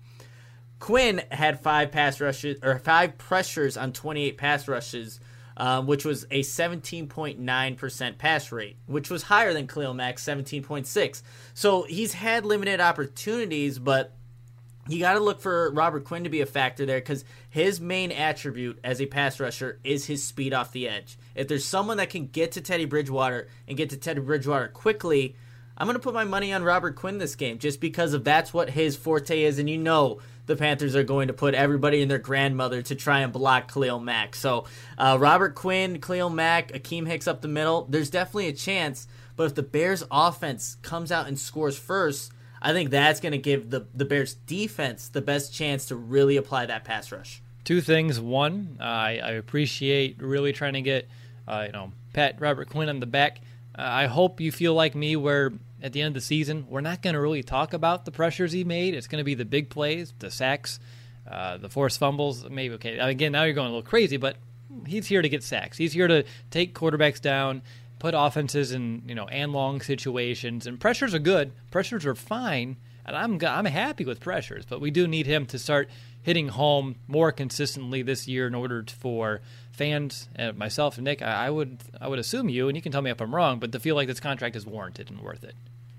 Speaker 4: Quinn had five pass rushes or five pressures on twenty-eight pass rushes, um, which was a seventeen point nine percent pass rate, which was higher than Khalil Mack's seventeen point six. So he's had limited opportunities, but you got to look for Robert Quinn to be a factor there, because his main attribute as a pass rusher is his speed off the edge. If there's someone that can get to Teddy Bridgewater and get to Teddy Bridgewater quickly, I'm going to put my money on Robert Quinn this game, just because of that's what his forte is. And you know the Panthers are going to put everybody and their grandmother to try and block Khalil Mack. So uh, Robert Quinn, Khalil Mack, Akeem Hicks up the middle, there's definitely a chance. But if the Bears offense comes out and scores first, I think that's going to give the, the Bears defense the best chance to really apply that pass rush.
Speaker 3: Two things. One, uh, I, I appreciate really trying to get uh, you know pat Robert Quinn on the back. Uh, I hope you feel like me, where at the end of the season, we're not going to really talk about the pressures he made. It's going to be the big plays, the sacks, uh, the forced fumbles. Maybe, okay, again, now you're going a little crazy, but he's here to get sacks. He's here to take quarterbacks down, put offenses in, you know, and long situations. And pressures are good. Pressures are fine, and I'm I'm happy with pressures. But we do need him to start hitting home more consistently this year in order to, for fans, and myself and Nick, I, I would I would assume you, and you can tell me if I'm wrong, but to feel like this contract is warranted and worth it.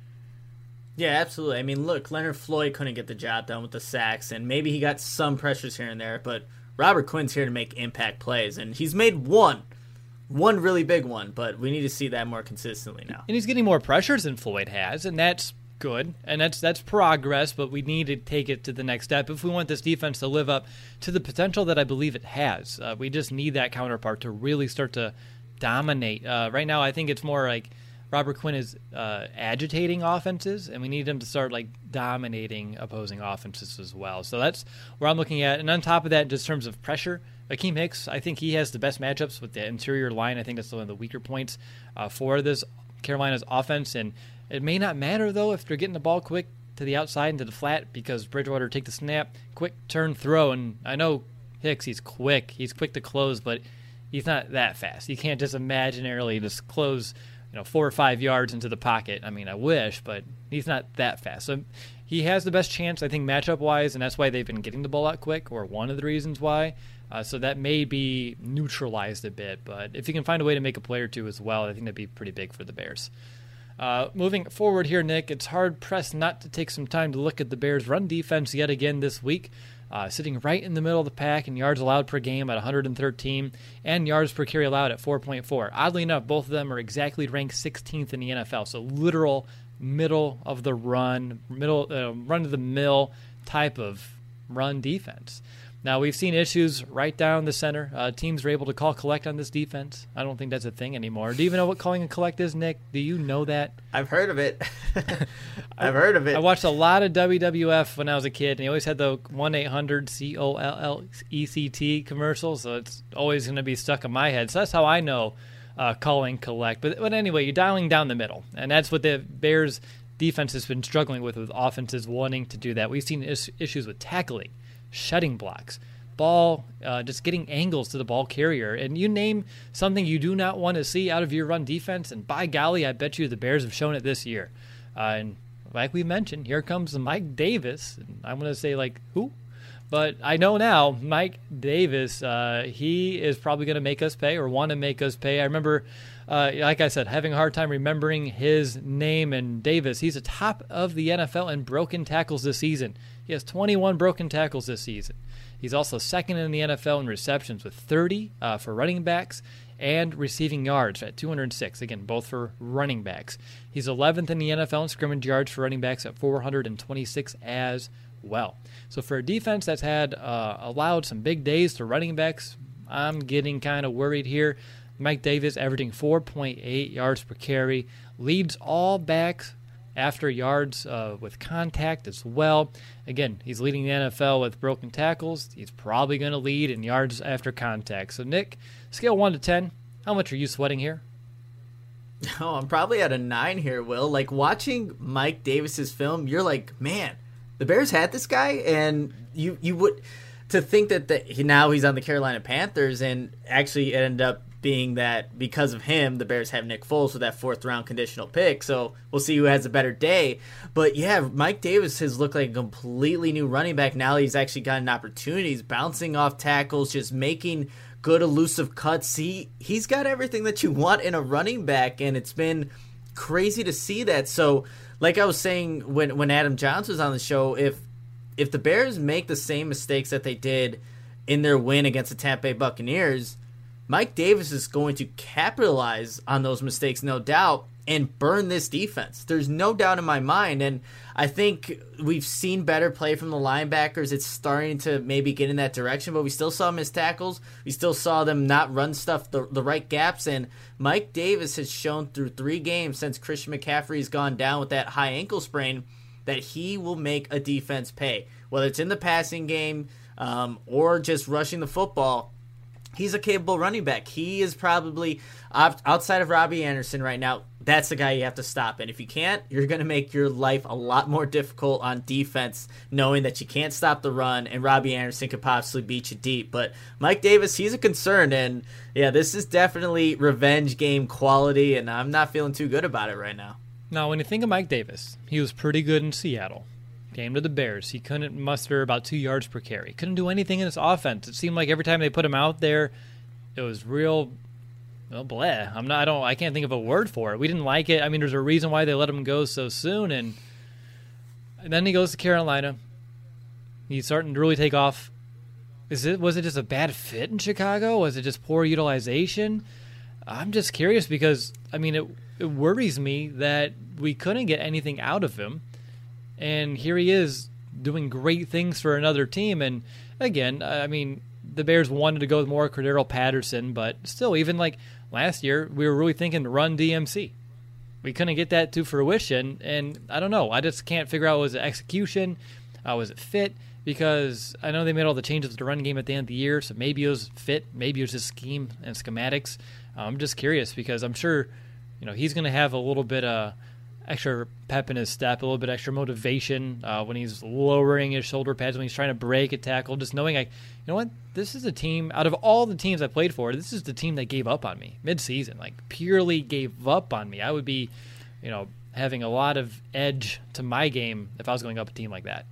Speaker 4: Yeah, absolutely. I mean, look, Leonard Floyd couldn't get the job done with the sacks, and maybe he got some pressures here and there, but Robert Quinn's here to make impact plays, and he's made one, one really big one, but we need to see that more consistently now.
Speaker 3: And he's getting more pressures than Floyd has, and that's good, and that's that's progress, but we need to take it to the next step if we want this defense to live up to the potential that I believe it has. Uh, we just need that counterpart to really start to dominate. Uh, right now, I think it's more like Robert Quinn is uh, agitating offenses, and we need him to start like dominating opposing offenses as well. So that's where I'm looking at. And on top of that, just in terms of pressure, Akeem Hicks, I think he has the best matchups with the interior line. I think that's one of the weaker points uh, for this Carolina's offense. And it may not matter, though, if they're getting the ball quick to the outside and to the flat, because Bridgewater take the snap, quick turn throw. And I know Hicks, he's quick. He's quick to close, but he's not that fast. You can't just imaginarily just close, you know, four or five yards into the pocket. I mean, I wish, but he's not that fast. So he has the best chance, I think, matchup-wise, and that's why they've been getting the ball out quick, or one of the reasons why. Uh, so that may be neutralized a bit. But if you can find a way to make a play or two as well, I think that'd be pretty big for the Bears. Uh, moving forward here, Nick, it's hard-pressed not to take some time to look at the Bears' run defense yet again this week. Uh, sitting right in the middle of the pack in yards allowed per game at one hundred thirteen and yards per carry allowed at four point four. Oddly enough, both of them are exactly ranked sixteenth in the N F L, so literal middle of the run, middle uh, run-to-the-mill type of run defense. Now, we've seen issues right down the center. Uh, teams are able to call collect on this defense. I don't think that's a thing anymore. Do you even know what calling a collect is, Nick? Do you know that?
Speaker 4: I've heard of it. I've heard of it.
Speaker 3: I watched a lot of W W F when I was a kid, and he always had the one eight hundred C O L L E C T commercial, so it's always going to be stuck in my head. So that's how I know uh, calling collect. But, but anyway, you're dialing down the middle, and that's what the Bears' defense has been struggling with, with offenses wanting to do that. We've seen is- issues with tackling, shutting blocks, ball, uh, just getting angles to the ball carrier. And you name something you do not want to see out of your run defense, and by golly, I bet you the Bears have shown it this year. Uh, and like we mentioned, here comes Mike Davis. And I'm going to say, like, who? But I know now, Mike Davis, uh, he is probably going to make us pay or want to make us pay. I remember, uh, like I said, having a hard time remembering his name. And Davis, he's the top of the N F L in broken tackles this season. He has twenty-one broken tackles this season. He's also second in the N F L in receptions with thirty uh, for running backs and receiving yards at two hundred six, again, both for running backs. He's eleventh in the N F L in scrimmage yards for running backs at four hundred twenty-six as well. So for a defense that's had uh, allowed some big days to running backs, I'm getting kind of worried here. Mike Davis averaging four point eight yards per carry, leads all backs after yards uh, with contact as well. Again, he's leading the N F L with broken tackles. He's probably going to lead in yards after contact. So, Nick, scale one to ten, how much are you sweating here?
Speaker 4: Oh, I'm probably at a nine here, Will. Like, watching Mike Davis's film, you're like, man, the Bears had this guy, and you you would to think that the, now he's on the Carolina Panthers, and actually it ended up being that because of him, the Bears have Nick Foles with that fourth round conditional pick. So we'll see who has a better day. But yeah, Mike Davis has looked like a completely new running back. Now he's actually gotten opportunities, bouncing off tackles, just making good elusive cuts. He he's got everything that you want in a running back, and it's been crazy to see that. So like I was saying when when Adam Johnson was on the show, if if the Bears make the same mistakes that they did in their win against the Tampa Bay Buccaneers, Mike Davis is going to capitalize on those mistakes, no doubt, and burn this defense. There's no doubt in my mind, and I think we've seen better play from the linebackers. It's starting to maybe get in that direction, but we still saw missed tackles. We still saw them not run stuff the, the right gaps, and Mike Davis has shown through three games since Christian McCaffrey's gone down with that high ankle sprain that he will make a defense pay. Whether it's in the passing game um, or just rushing the football, he's a capable running back. He is probably, outside of Robbie Anderson right now, that's the guy you have to stop. And if you can't, you're going to make your life a lot more difficult on defense, knowing that you can't stop the run, and Robbie Anderson could possibly beat you deep. But Mike Davis, he's a concern. And, yeah, this is definitely revenge game quality, and I'm not feeling too good about it right now.
Speaker 3: Now, when you think of Mike Davis, he was pretty good in Seattle. Came to the Bears. He couldn't muster about two yards per carry. Couldn't do anything in this offense. It seemed like every time they put him out there, it was real, well, bleh. I'm not. I don't. I can't think of a word for it. We didn't like it. I mean, there's a reason why they let him go so soon. And, and then he goes to Carolina. He's starting to really take off. Is it? Was it just a bad fit in Chicago? Was it just poor utilization? I'm just curious because I mean, it it worries me that we couldn't get anything out of him. And here he is doing great things for another team. And again, I mean, the Bears wanted to go with more Cordero Patterson, but still, even like last year, we were really thinking run D M C. We couldn't get that to fruition. And I don't know. I just can't figure out, was it execution? Uh, was it fit? Because I know they made all the changes to the run game at the end of the year, so maybe it was fit. Maybe it was just scheme and schematics. I'm just curious because I'm sure, you know, he's going to have a little bit of extra pep in his step, a little bit extra motivation uh, when he's lowering his shoulder pads, when he's trying to break a tackle, just knowing, like, you know what, this is a team, out of all the teams I played for, this is the team that gave up on me mid-season, like purely gave up on me. I would be, you know, having a lot of edge to my game if I was going up a team like that.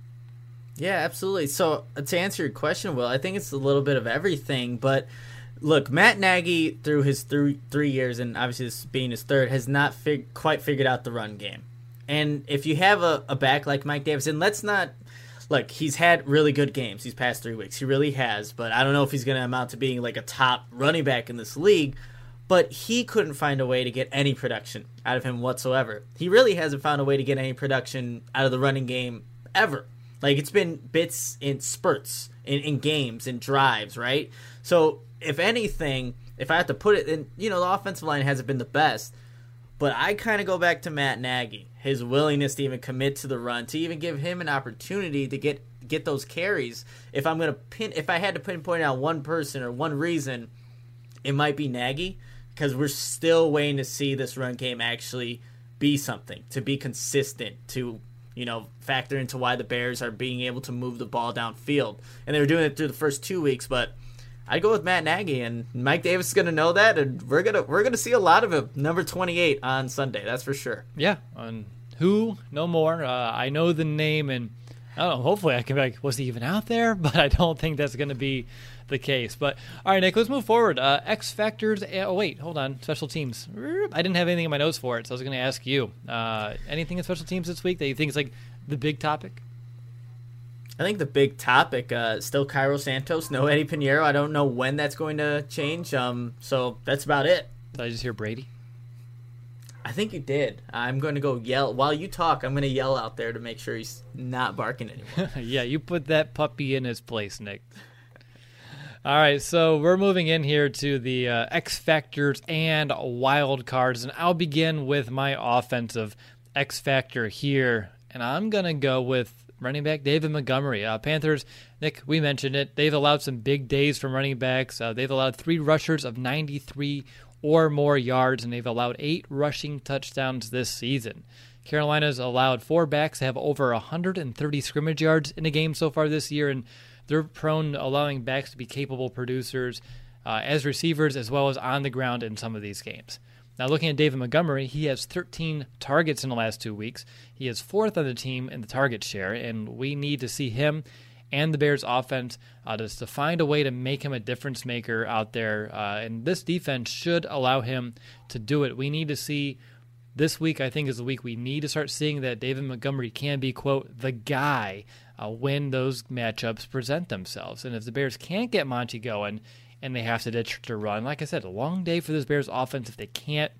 Speaker 4: Yeah, absolutely. So to answer your question, Will, I think it's a little bit of everything, but look, Matt Nagy, through his three, three years, and obviously this being his third, has not fig- quite figured out the run game. And if you have a, a back like Mike Davis, and let's not, look, he's had really good games these past three weeks. He really has, but I don't know if he's going to amount to being like a top running back in this league. But he couldn't find a way to get any production out of him whatsoever. He really hasn't found a way to get any production out of the running game ever. Like, it's been bits in spurts, in, in games, in drives, right? So, if anything, if I have to put it in, you know, the offensive line hasn't been the best, but I kind of go back to Matt Nagy, his willingness to even commit to the run, to even give him an opportunity to get get those carries. If I'm going to pin, if I had to pinpoint out one person or one reason, it might be Nagy, because we're still waiting to see this run game actually be something, to be consistent, to, you know, factor into why the Bears are being able to move the ball downfield. And they were doing it through the first two weeks, but I'd go with Matt Nagy, and Mike Davis is going to know that, and we're gonna we're gonna see a lot of him. Number twenty-eight on Sunday, that's for sure.
Speaker 3: Yeah, and who, no more. Uh, I know the name, and I don't know, hopefully I can be like, was he even out there? But I don't think that's going to be the case. But all right, Nick, let's move forward. Uh, X Factors. Oh, wait, hold on. Special teams. I didn't have anything in my notes for it, so I was going to ask you. Uh, anything in special teams this week that you think is like the big topic?
Speaker 4: I think the big topic, uh, still Cairo Santos, no Eddie Pinheiro. I don't know when that's going to change. Um, so that's about it.
Speaker 3: Did I just hear Brady?
Speaker 4: I think you did. I'm going to go yell. While you talk, I'm going to yell out there to make sure he's not barking anymore.
Speaker 3: Yeah, you put that puppy in his place, Nick. All right, so we're moving in here to the uh, X Factors and wild cards, and I'll begin with my offensive X Factor here, and I'm going to go with running back David Montgomery. Uh, Panthers, Nick, we mentioned it. They've allowed some big days from running backs. Uh, they've allowed three rushers of ninety-three or more yards, and they've allowed eight rushing touchdowns this season. Carolina's allowed four backs to have over one hundred thirty scrimmage yards in a game so far this year, and they're prone to allowing backs to be capable producers uh, as receivers as well as on the ground in some of these games. Now, looking at David Montgomery, he has thirteen targets in the last two weeks. He is fourth on the team in the target share, and we need to see him and the Bears' offense uh, just to find a way to make him a difference maker out there. Uh, and this defense should allow him to do it. We need to see this week, I think, is the week we need to start seeing that David Montgomery can be, quote, the guy uh, when those matchups present themselves. And if the Bears can't get Monty going, and they have to ditch to run. Like I said, a long day for this Bears offense if they can't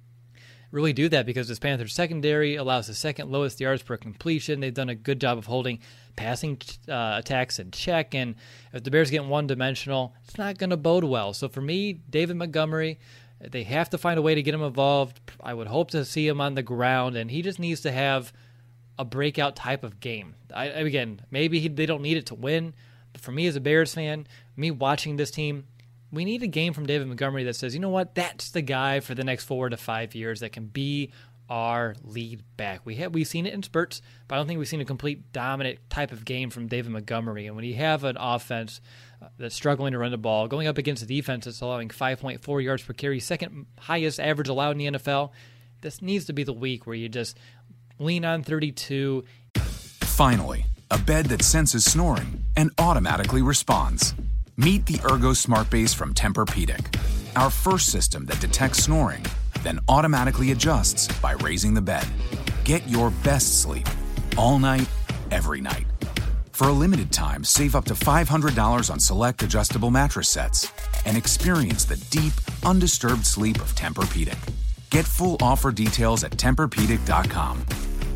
Speaker 3: really do that, because this Panthers secondary allows the second lowest yards per completion. They've done a good job of holding passing uh, attacks in check, and if the Bears get one-dimensional, it's not going to bode well. So for me, David Montgomery, they have to find a way to get him involved. I would hope to see him on the ground, and he just needs to have a breakout type of game. I, again, maybe he, they don't need it to win, but for me as a Bears fan, me watching this team, we need a game from David Montgomery that says, you know what, that's the guy for the next four to five years that can be our lead back. We have we've seen it in spurts, but I don't think we've seen a complete dominant type of game from David Montgomery. And when you have an offense uh, that's struggling to run the ball, going up against a defense that's allowing five point four yards per carry, second highest average allowed in the N F L, this needs to be the week where you just lean on thirty-two.
Speaker 6: Finally, a bed that senses snoring and automatically responds. Meet the Ergo Smart Base from Tempur-Pedic, our first system that detects snoring, then automatically adjusts by raising the bed. Get your best sleep all night, every night. For a limited time, save up to five hundred dollars on select adjustable mattress sets and experience the deep, undisturbed sleep of Tempur-Pedic. Get full offer details at Tempur Pedic dot com.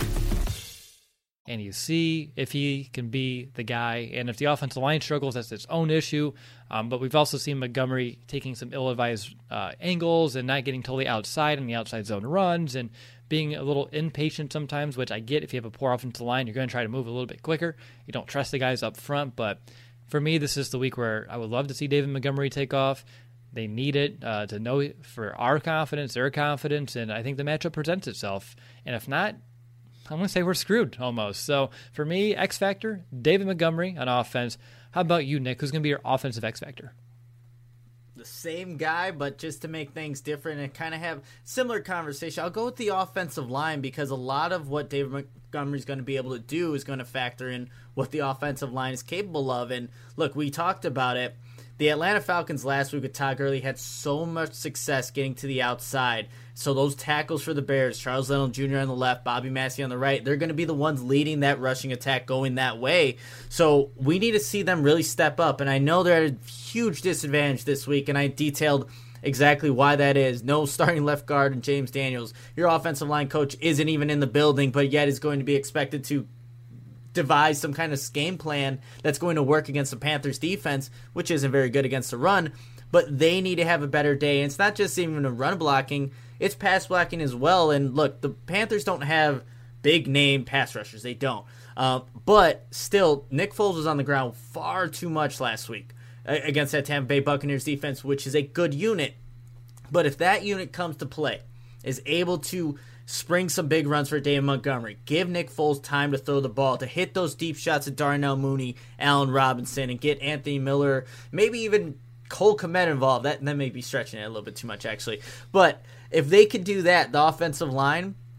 Speaker 3: And you see if he can be the guy. And if the offensive line struggles, that's its own issue. Um, but we've also seen Montgomery taking some ill-advised uh, angles and not getting totally outside in the outside zone runs and being a little impatient sometimes, which I get. If you have a poor offensive line, you're going to try to move a little bit quicker. You don't trust the guys up front. But for me, this is the week where I would love to see David Montgomery take off. They need it uh, to know for our confidence, their confidence, and I think the matchup presents itself. And if not, I'm going to say we're screwed almost. So for me, X Factor, David Montgomery on offense. How about you, Nick? Who's going to be your offensive X Factor?
Speaker 4: The same guy, but just to make things different and kind of have similar conversation, I'll go with the offensive line, because a lot of what David Montgomery is going to be able to do is going to factor in what the offensive line is capable of. And look, we talked about it. The Atlanta Falcons last week with Todd Gurley had so much success getting to the outside. So those tackles for the Bears, Charles Leno Junior on the left, Bobby Massey on the right, they're going to be the ones leading that rushing attack going that way. So we need to see them really step up. And I know they're at a huge disadvantage this week, and I detailed exactly why that is. No starting left guard and James Daniels. Your offensive line coach isn't even in the building, but yet is going to be expected to devise some kind of game plan that's going to work against the Panthers defense, which isn't very good against the run. But they need to have a better day. And it's not just even a run blocking, it's pass blocking as well. And look, the Panthers don't have big name pass rushers. They don't. Uh, but still, Nick Foles was on the ground far too much last week against that Tampa Bay Buccaneers defense, which is a good unit. But if that unit comes to play, is able to spring some big runs for David Montgomery, give Nick Foles time to throw the ball, to hit those deep shots at Darnell Mooney, Allen Robinson, and get Anthony Miller, maybe even Cole Kmet involved. That, that may be stretching it a little bit too much, actually. But if they could do that, the offensive line,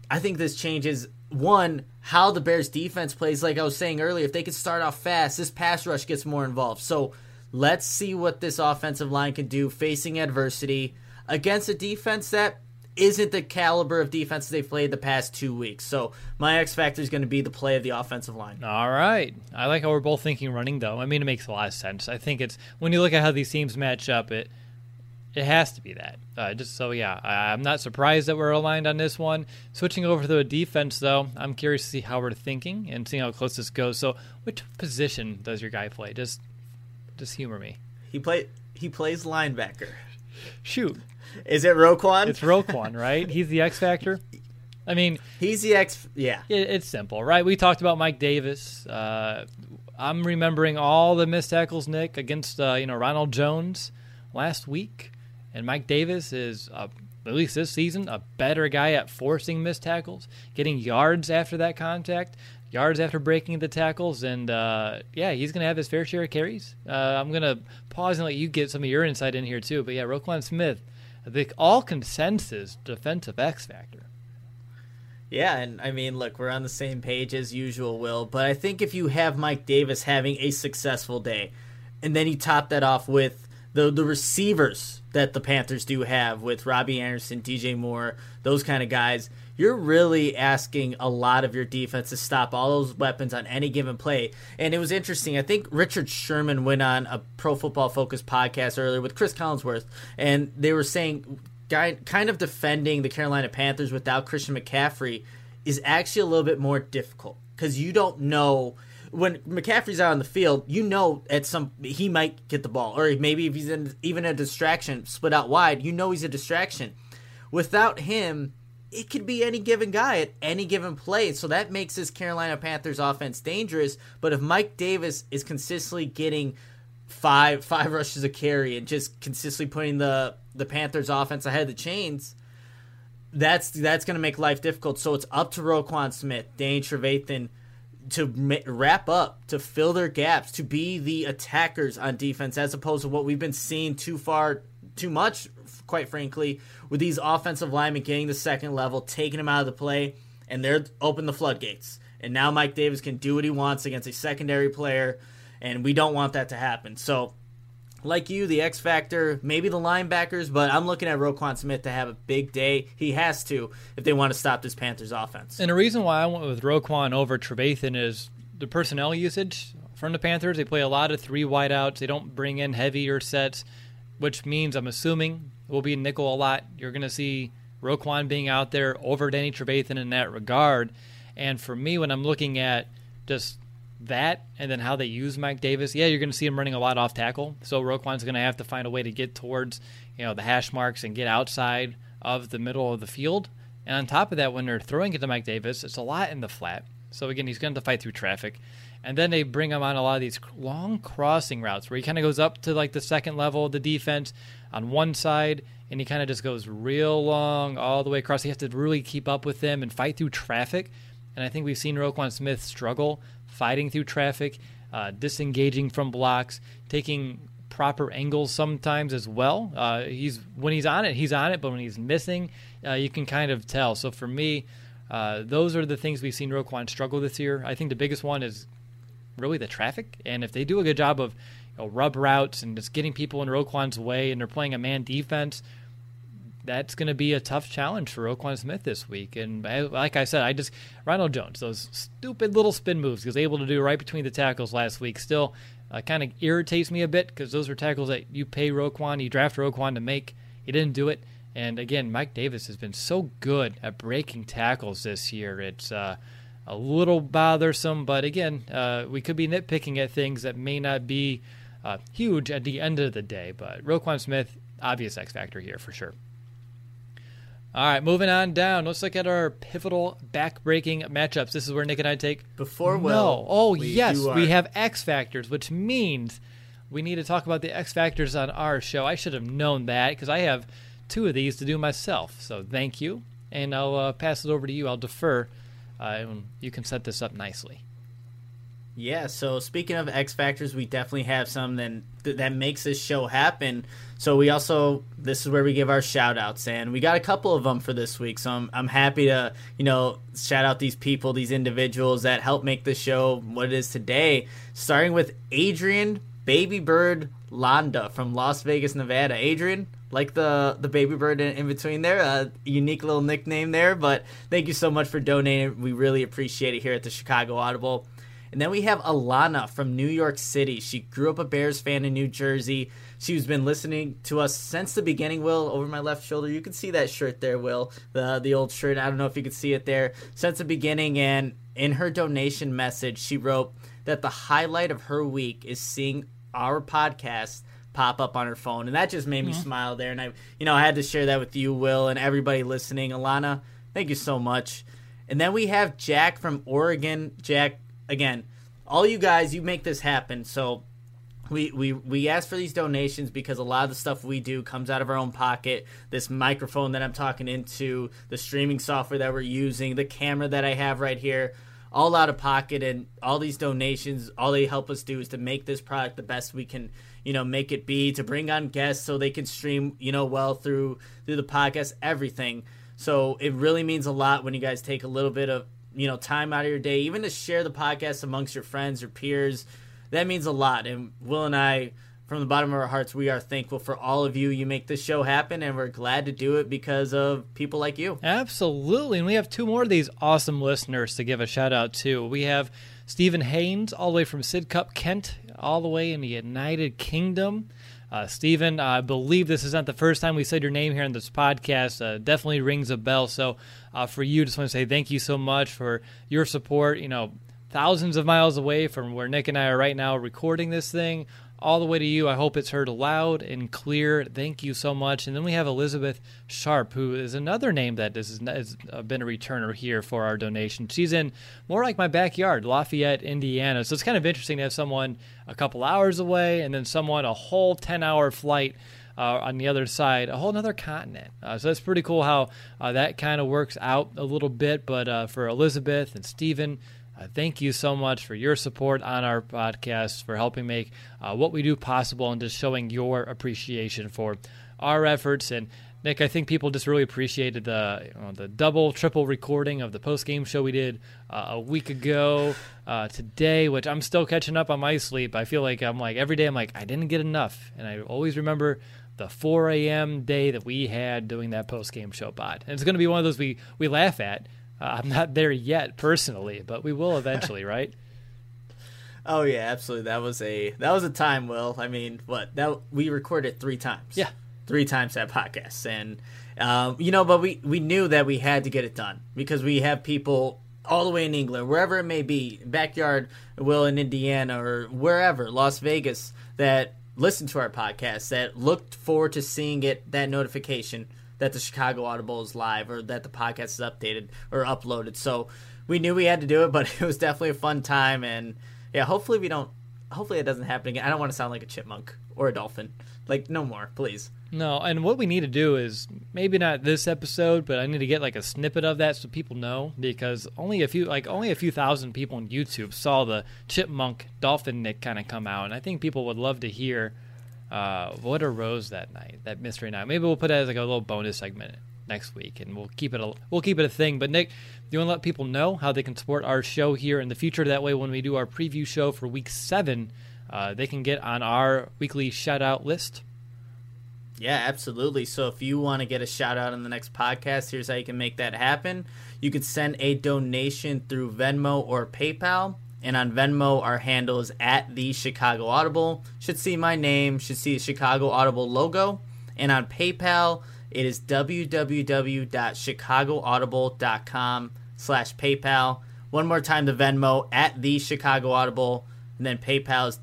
Speaker 4: I think this changes, one, how the Bears defense plays. Like I was saying earlier, if they could start off fast, this pass rush gets more involved. So let's see what this offensive line can do facing adversity against a defense that isn't the caliber of defense they've played the past two weeks. So my X factor is going to be the play of the offensive line.
Speaker 3: All right. I like how we're both thinking running, though. I mean, it makes a lot of sense. I think it's, when you look at how these teams match up, it it has to be that. Uh, just so, yeah, I, I'm not surprised that we're aligned on this one. Switching over to the defense, though, I'm curious to see how we're thinking and seeing how close this goes. So which position does your guy play? Just, just humor me.
Speaker 4: He play he plays linebacker.
Speaker 3: Shoot.
Speaker 4: Is it Roquan?
Speaker 3: It's Roquan, right? He's the X factor. I mean,
Speaker 4: he's the X. Yeah,
Speaker 3: it, it's simple, right? We talked about Mike Davis. Uh, I'm remembering all the missed tackles, Nick, against uh, you know Ronald Jones last week, and Mike Davis is uh, at least this season a better guy at forcing missed tackles, getting yards after that contact, yards after breaking the tackles, and uh, yeah, he's going to have his fair share of carries. Uh, I'm going to pause and let you get some of your insight in here too. But yeah, Roquan Smith, the all consensus defensive X factor.
Speaker 4: Yeah, and I mean, look, we're on the same page as usual, Will, but I think if you have Mike Davis having a successful day, and then you top that off with the the receivers that the Panthers do have with Robbie Anderson, D J Moore, those kind of guys, you're really asking a lot of your defense to stop all those weapons on any given play. And it was interesting. I think Richard Sherman went on a Pro Football Focus podcast earlier with Chris Collinsworth, and they were saying kind of defending the Carolina Panthers without Christian McCaffrey is actually a little bit more difficult because you don't know when McCaffrey's out on the field, you know at some he might get the ball, or maybe if he's in, even a distraction, split out wide, you know he's a distraction. Without him, it could be any given guy at any given play, so that makes this Carolina Panthers offense dangerous. But if Mike Davis is consistently getting five five rushes a carry and just consistently putting the the Panthers offense ahead of the chains, that's that's going to make life difficult. So it's up to Roquan Smith, Danny Trevathan to ma- wrap up, to fill their gaps, to be the attackers on defense, as opposed to what we've been seeing too far, too much, quite frankly, with these offensive linemen getting the second level, taking them out of the play, and they're open the floodgates. And now Mike Davis can do what he wants against a secondary player, and we don't want that to happen. So, like you, the X factor, maybe the linebackers, but I'm looking at Roquan Smith to have a big day. He has to if they want to stop this Panthers offense.
Speaker 3: And the reason why I went with Roquan over Trevathan is the personnel usage from the Panthers. They play a lot of three wideouts. They don't bring in heavier sets, which means I'm assuming it will be nickel a lot. You're going to see Roquan being out there over Danny Trevathan in that regard. And for me, when I'm looking at just that and then how they use Mike Davis, yeah, you're going to see him running a lot off tackle. So Roquan's going to have to find a way to get towards, you know, the hash marks and get outside of the middle of the field. And on top of that, when they're throwing it to Mike Davis, it's a lot in the flat. So again, he's going to have to fight through traffic. And then they bring him on a lot of these long crossing routes where he kind of goes up to like the second level of the defense on one side, and he kind of just goes real long all the way across. You have to really keep up with them and fight through traffic. And I think we've seen Roquan Smith struggle fighting through traffic, uh, disengaging from blocks, taking proper angles sometimes as well. Uh, he's when he's on it, he's on it, but when he's missing, uh, you can kind of tell. So for me, uh, those are the things we've seen Roquan struggle this year. I think the biggest one is really the traffic, and if they do a good job of you know, rub routes and just getting people in Roquan's way and they're playing a man defense, that's going to be a tough challenge for Roquan Smith this week. And I, like I said, I just Ronald Jones, those stupid little spin moves he was able to do right between the tackles last week still uh, kind of irritates me a bit because those are tackles that you pay Roquan, you draft Roquan to make. He didn't do it. And again, Mike Davis has been so good at breaking tackles this year. It's uh, a little bothersome, but again, uh, we could be nitpicking at things that may not be uh, huge at the end of the day. But Roquan Smith, obvious X factor here for sure. All right, moving on down. Let's look at our pivotal back-breaking matchups. This is where Nick and I take...
Speaker 4: Before Will...
Speaker 3: No. Oh,
Speaker 4: we
Speaker 3: yes,
Speaker 4: our...
Speaker 3: we have X factors, which means we need to talk about the X factors on our show. I should have known that because I have two of these to do myself. So thank you, and I'll uh, pass it over to you. I'll defer, uh, and you can set this up nicely.
Speaker 4: Yeah, so speaking of X Factors, we definitely have some that, that makes this show happen. So we also, this is where we give our shout outs, and we got a couple of them for this week. So I'm, I'm happy to, you know, shout out these people, these individuals that help make the show what it is today, starting with Adrian Baby Bird Londa from Las Vegas, Nevada. Adrian, like the, the baby bird in, in between there, a unique little nickname there, but thank you so much for donating. We really appreciate it here at the Chicago Audible. And then we have Alana from New York City. She grew up a Bears fan in New Jersey. She's been listening to us since the beginning, Will, over my left shoulder. You can see that shirt there, Will, the the old shirt. I don't know if you can see it there. Since the beginning, and in her donation message, she wrote that the highlight of her week is seeing our podcast pop up on her phone. And that just made me mm-hmm. smile there. And I, you know, I had to share that with you, Will, and everybody listening. Alana, thank you so much. And then we have Jack from Oregon. Jack, again, all you guys, you make this happen. So we, we we ask for these donations because a lot of the stuff we do comes out of our own pocket. This microphone that I'm talking into, the streaming software that we're using, the camera that I have right here, all out of pocket. And all these donations, all they help us do is to make this product the best we can, you know, make it be, to bring on guests so they can stream, you know, well through through the podcast, everything. So it really means a lot when you guys take a little bit of, you know, time out of your day, even to share the podcast amongst your friends or peers. That means a lot. And Will and I, from the bottom of our hearts, we are thankful for all of you. You make this show happen, and we're glad to do it because of people like you.
Speaker 3: Absolutely. And we have two more of these awesome listeners to give a shout out to. We have Stephen Haynes, all the way from Sidcup, Kent, all the way in the United Kingdom. Uh, Stephen, I believe this is not the first time we said your name here in this podcast. Uh, definitely rings a bell. So uh, for you, just want to say thank you so much for your support. You know, thousands of miles away from where Nick and I are right now recording this thing, all the way to you. I hope it's heard loud and clear. Thank you so much. And then we have Elizabeth Sharp, who is another name that has been a returner here for our donation. She's in more like my backyard, Lafayette, Indiana. So it's kind of interesting to have someone a couple hours away and then someone a whole ten-hour flight uh, on the other side, a whole other continent. Uh, so that's pretty cool how uh, that kind of works out a little bit. But uh, for Elizabeth and Stephen, Uh, thank you so much for your support on our podcast, for helping make uh, what we do possible, and just showing your appreciation for our efforts. And Nick, I think people just really appreciated the you know, the double, triple recording of the post-game show we did uh, a week ago uh, today, which I'm still catching up on my sleep. I feel like I'm like every day I'm like, I didn't get enough. And I always remember the four a.m. day that we had doing that post-game show pod. And it's going to be one of those we, we laugh at. Uh, I'm not there yet personally, but we will eventually, right?
Speaker 4: Oh yeah, absolutely. That was a that was a time, Will. I mean, what that we recorded three times.
Speaker 3: Yeah,
Speaker 4: three times that podcast, and um, you know, but we we knew that we had to get it done because we have people all the way in England, wherever it may be, backyard, Will, in Indiana or wherever, Las Vegas, that listen to our podcast, that looked forward to seeing it, that notification that the Chicago Audible is live or that the podcast is updated or uploaded. So we knew we had to do it, but it was definitely a fun time. And yeah, hopefully we don't, hopefully it doesn't happen again. I don't want to sound like a chipmunk or a dolphin. Like, no more, please.
Speaker 3: No, and what we need to do is maybe not this episode, but I need to get like a snippet of that so people know, because only a few, like only a few thousand people on YouTube saw the chipmunk dolphin Nick kind of come out. And I think people would love to hear Uh, what arose that night, that mystery night. Maybe we'll put it as like a little bonus segment next week, and we'll keep it a we'll keep it a thing. But Nick, do you want to let people know how they can support our show here in the future? That way, when we do our preview show for Week Seven, uh, they can get on our weekly shout out list.
Speaker 4: Yeah, absolutely. So if you want to get a shout out on the next podcast, here's how you can make that happen. You could send a donation through Venmo or PayPal. And on Venmo, our handle is at the Chicago Audible. Should see my name, should see the Chicago Audible logo. And on PayPal, it is www.chicagoaudible.com slash PayPal. One more time, the Venmo, at the Chicago Audible. And then PayPal is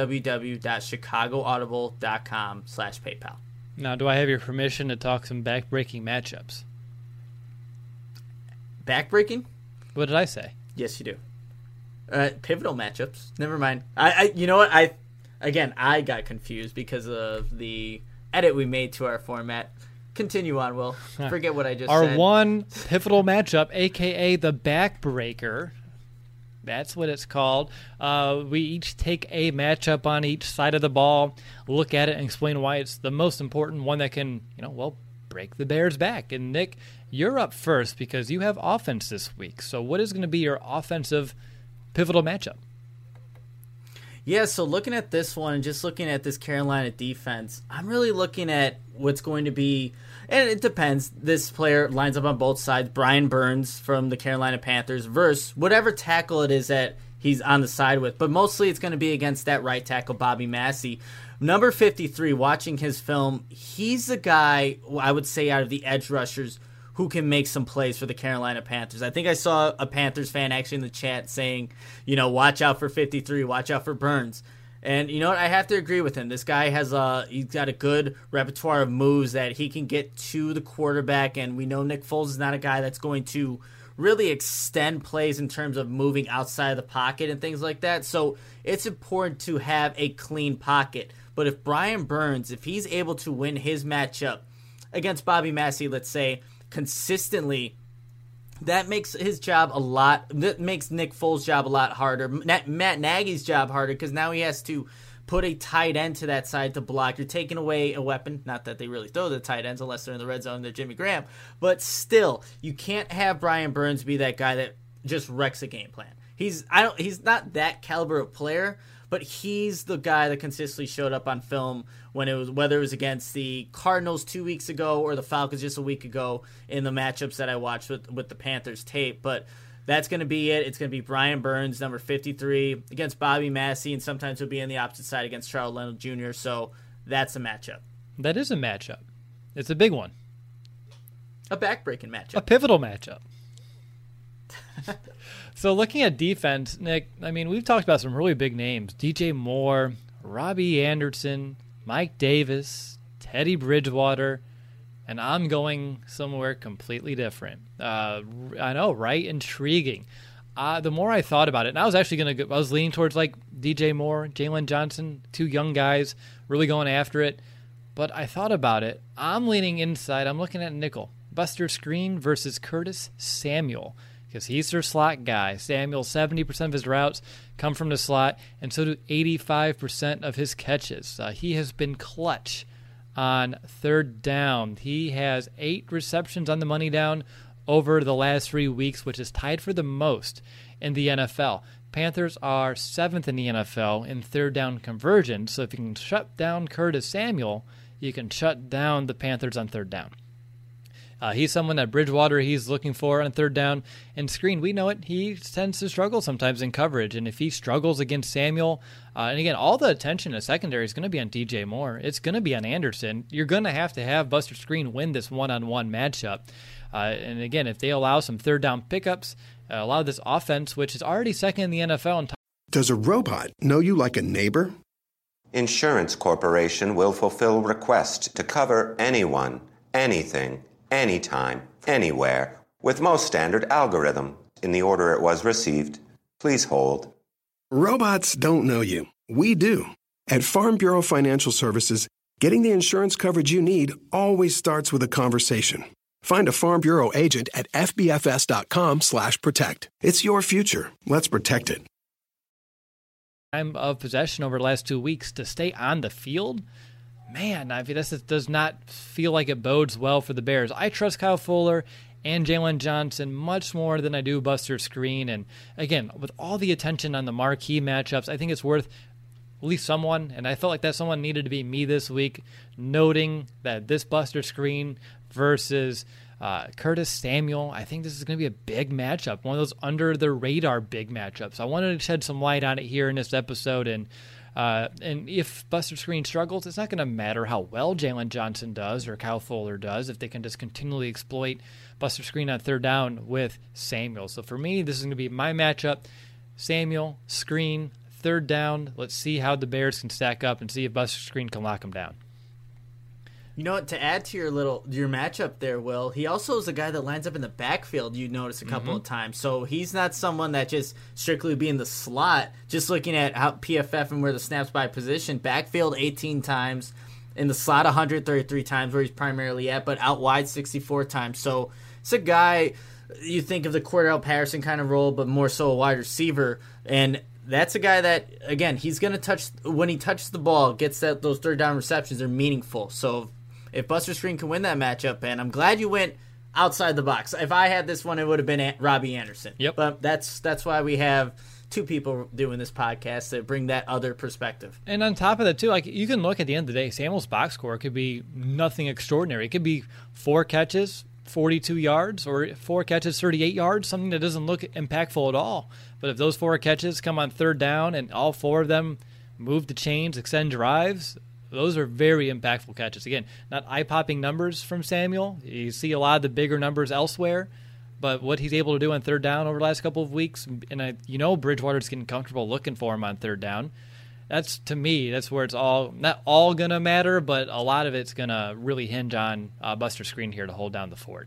Speaker 4: www.chicagoaudible.com slash PayPal.
Speaker 3: Now, do I have your permission to talk some back-breaking matchups?
Speaker 4: Back-breaking?
Speaker 3: What did I say?
Speaker 4: Yes, you do. Uh, pivotal matchups. Never mind. I, I, you know what? I, again, I got confused because of the edit we made to our format. Continue on, Will. Forget what I just
Speaker 3: our
Speaker 4: said.
Speaker 3: Our one pivotal matchup, a k a the backbreaker, That's what it's called. Uh, we each take a matchup on each side of the ball, look at it, and explain why it's the most important one that can, you know, well, break the Bears back. And Nick, you're up first because you have offense this week. So what is going to be your offensive pivotal matchup?
Speaker 4: Yeah, so looking at this one and just looking at this Carolina defense, I'm really looking at what's going to be, and it depends. This player lines up on both sides. Brian Burns from the Carolina Panthers versus whatever tackle it is that he's on the side with. But mostly it's going to be against that right tackle, Bobby Massey. Number fifty-three, watching his film, he's the guy, I would say, out of the edge rushers who can make some plays for the Carolina Panthers. I think I saw a Panthers fan actually in the chat saying, you know, watch out for fifty-three, watch out for Burns. And you know what? I have to agree with him. This guy has a, he's got a good repertoire of moves that he can get to the quarterback, and we know Nick Foles is not a guy that's going to really extend plays in terms of moving outside of the pocket and things like that. So it's important to have a clean pocket. But if Brian Burns, if he's able to win his matchup against Bobby Massey, let's say, consistently, that makes his job a lot, that makes Nick Foles' job a lot harder, Matt Nagy's job harder, because now he has to put a tight end to that side to block. You're taking away a weapon, not that they really throw the tight ends unless they're in the red zone, they're Jimmy Graham, but still, you can't have Brian Burns be that guy that just wrecks a game plan. He's I don't he's not that caliber of player, but he's the guy that consistently showed up on film when it was, whether it was against the Cardinals two weeks ago or the Falcons just a week ago in the matchups that I watched with, with the Panthers tape. But that's going to be it. It's going to be Brian Burns, number fifty-three, against Bobby Massey, and sometimes he'll be on the opposite side against Charles Leno Junior So that's a matchup.
Speaker 3: That is a matchup. It's a big one.
Speaker 4: A backbreaking matchup.
Speaker 3: A pivotal matchup. So looking at defense, Nick, I mean, we've talked about some really big names. D J Moore, Robbie Anderson, Mike Davis, Teddy Bridgewater, and I'm going somewhere completely different. Uh, I know, right? Intriguing. Uh, the more I thought about it, and I was actually going to go, I was leaning towards like D J Moore, Jalen Johnson, two young guys really going after it. But I thought about it. I'm leaning inside. I'm looking at nickel. Buster Skrine versus Curtis Samuel, because he's their slot guy. Samuel, seventy percent of his routes come from the slot, and so do eighty-five percent of his catches. Uh, he has been clutch on third down. He has eight receptions on the money down over the last three weeks, which is tied for the most in the N F L. Panthers are seventh in the N F L in third down conversion, so if you can shut down Curtis Samuel, you can shut down the Panthers on third down. Uh, he's someone that Bridgewater he's looking for on third down. And Skrine, we know it, he tends to struggle sometimes in coverage. And if he struggles against Samuel, uh, and again, all the attention in the secondary is going to be on D J Moore. It's going to be on Anderson. You're going to have to have Buster Skrine win this one-on-one matchup. Uh, and again, if they allow some third down pickups, uh, allow this offense, which is already second in the N F L. In t-
Speaker 1: Does a robot know you like a neighbor?
Speaker 2: Insurance Corporation will fulfill requests to cover anyone, anything, anytime, anywhere, with most standard algorithm in the order it was received. Please hold.
Speaker 1: Robots don't know you. We do. At Farm Bureau Financial Services, getting the insurance coverage you need always starts with a conversation. Find a Farm Bureau agent at F B F S dot com slash protect. It's your future. Let's protect it.
Speaker 3: Time of possession over the last two weeks to stay on the field. Man, I mean, this is, does not feel like it bodes well for the Bears. I trust Kyle Fuller and Jalen Johnson much more than I do Buster Skrine. And again, with all the attention on the marquee matchups, I think it's worth at least someone, and I felt like that someone needed to be me this week, noting that this Buster Skrine versus uh, Curtis Samuel, I think this is going to be a big matchup, one of those under-the-radar big matchups. I wanted to shed some light on it here in this episode, and Uh, and if Buster Skrine struggles, it's not going to matter how well Jalen Johnson does or Kyle Fuller does if they can just continually exploit Buster Skrine on third down with Samuel. So for me, this is going to be my matchup. Samuel, Skrine, third down. Let's see how the Bears can stack up and see if Buster Skrine can lock them down.
Speaker 4: You know what, to add to your little your matchup there, Will, he also is a guy that lines up in the backfield, you notice a couple mm-hmm. of times. So he's not someone that just strictly be in the slot. Just looking at how P F F and where the snaps by position, backfield eighteen times, in the slot one hundred thirty-three times where he's primarily at, but out wide sixty-four times. So it's a guy, you think of the Cordell Patterson kind of role, but more so a wide receiver. And that's a guy that, again, he's going to touch, when he touches the ball, gets that those third down receptions, they're meaningful. So if Buster Skrine can win that matchup, and I'm glad you went outside the box. If I had this one, it would have been Robbie Anderson.
Speaker 3: Yep.
Speaker 4: But that's that's why we have two people doing this podcast to bring that other perspective.
Speaker 3: And on top of that, too, like you can look at the end of the day, Samuel's box score could be nothing extraordinary. It could be four catches, forty-two yards, or four catches, thirty-eight yards, something that doesn't look impactful at all. But if those four catches come on third down and all four of them move the chains, extend drives, those are very impactful catches. Again, not eye-popping numbers from Samuel. You see a lot of the bigger numbers elsewhere. But what he's able to do on third down over the last couple of weeks, and I, you know Bridgewater's getting comfortable looking for him on third down. That's, to me, that's where it's all, not all going to matter, but a lot of it's going to really hinge on uh, Buster Skrine here to hold down the fort.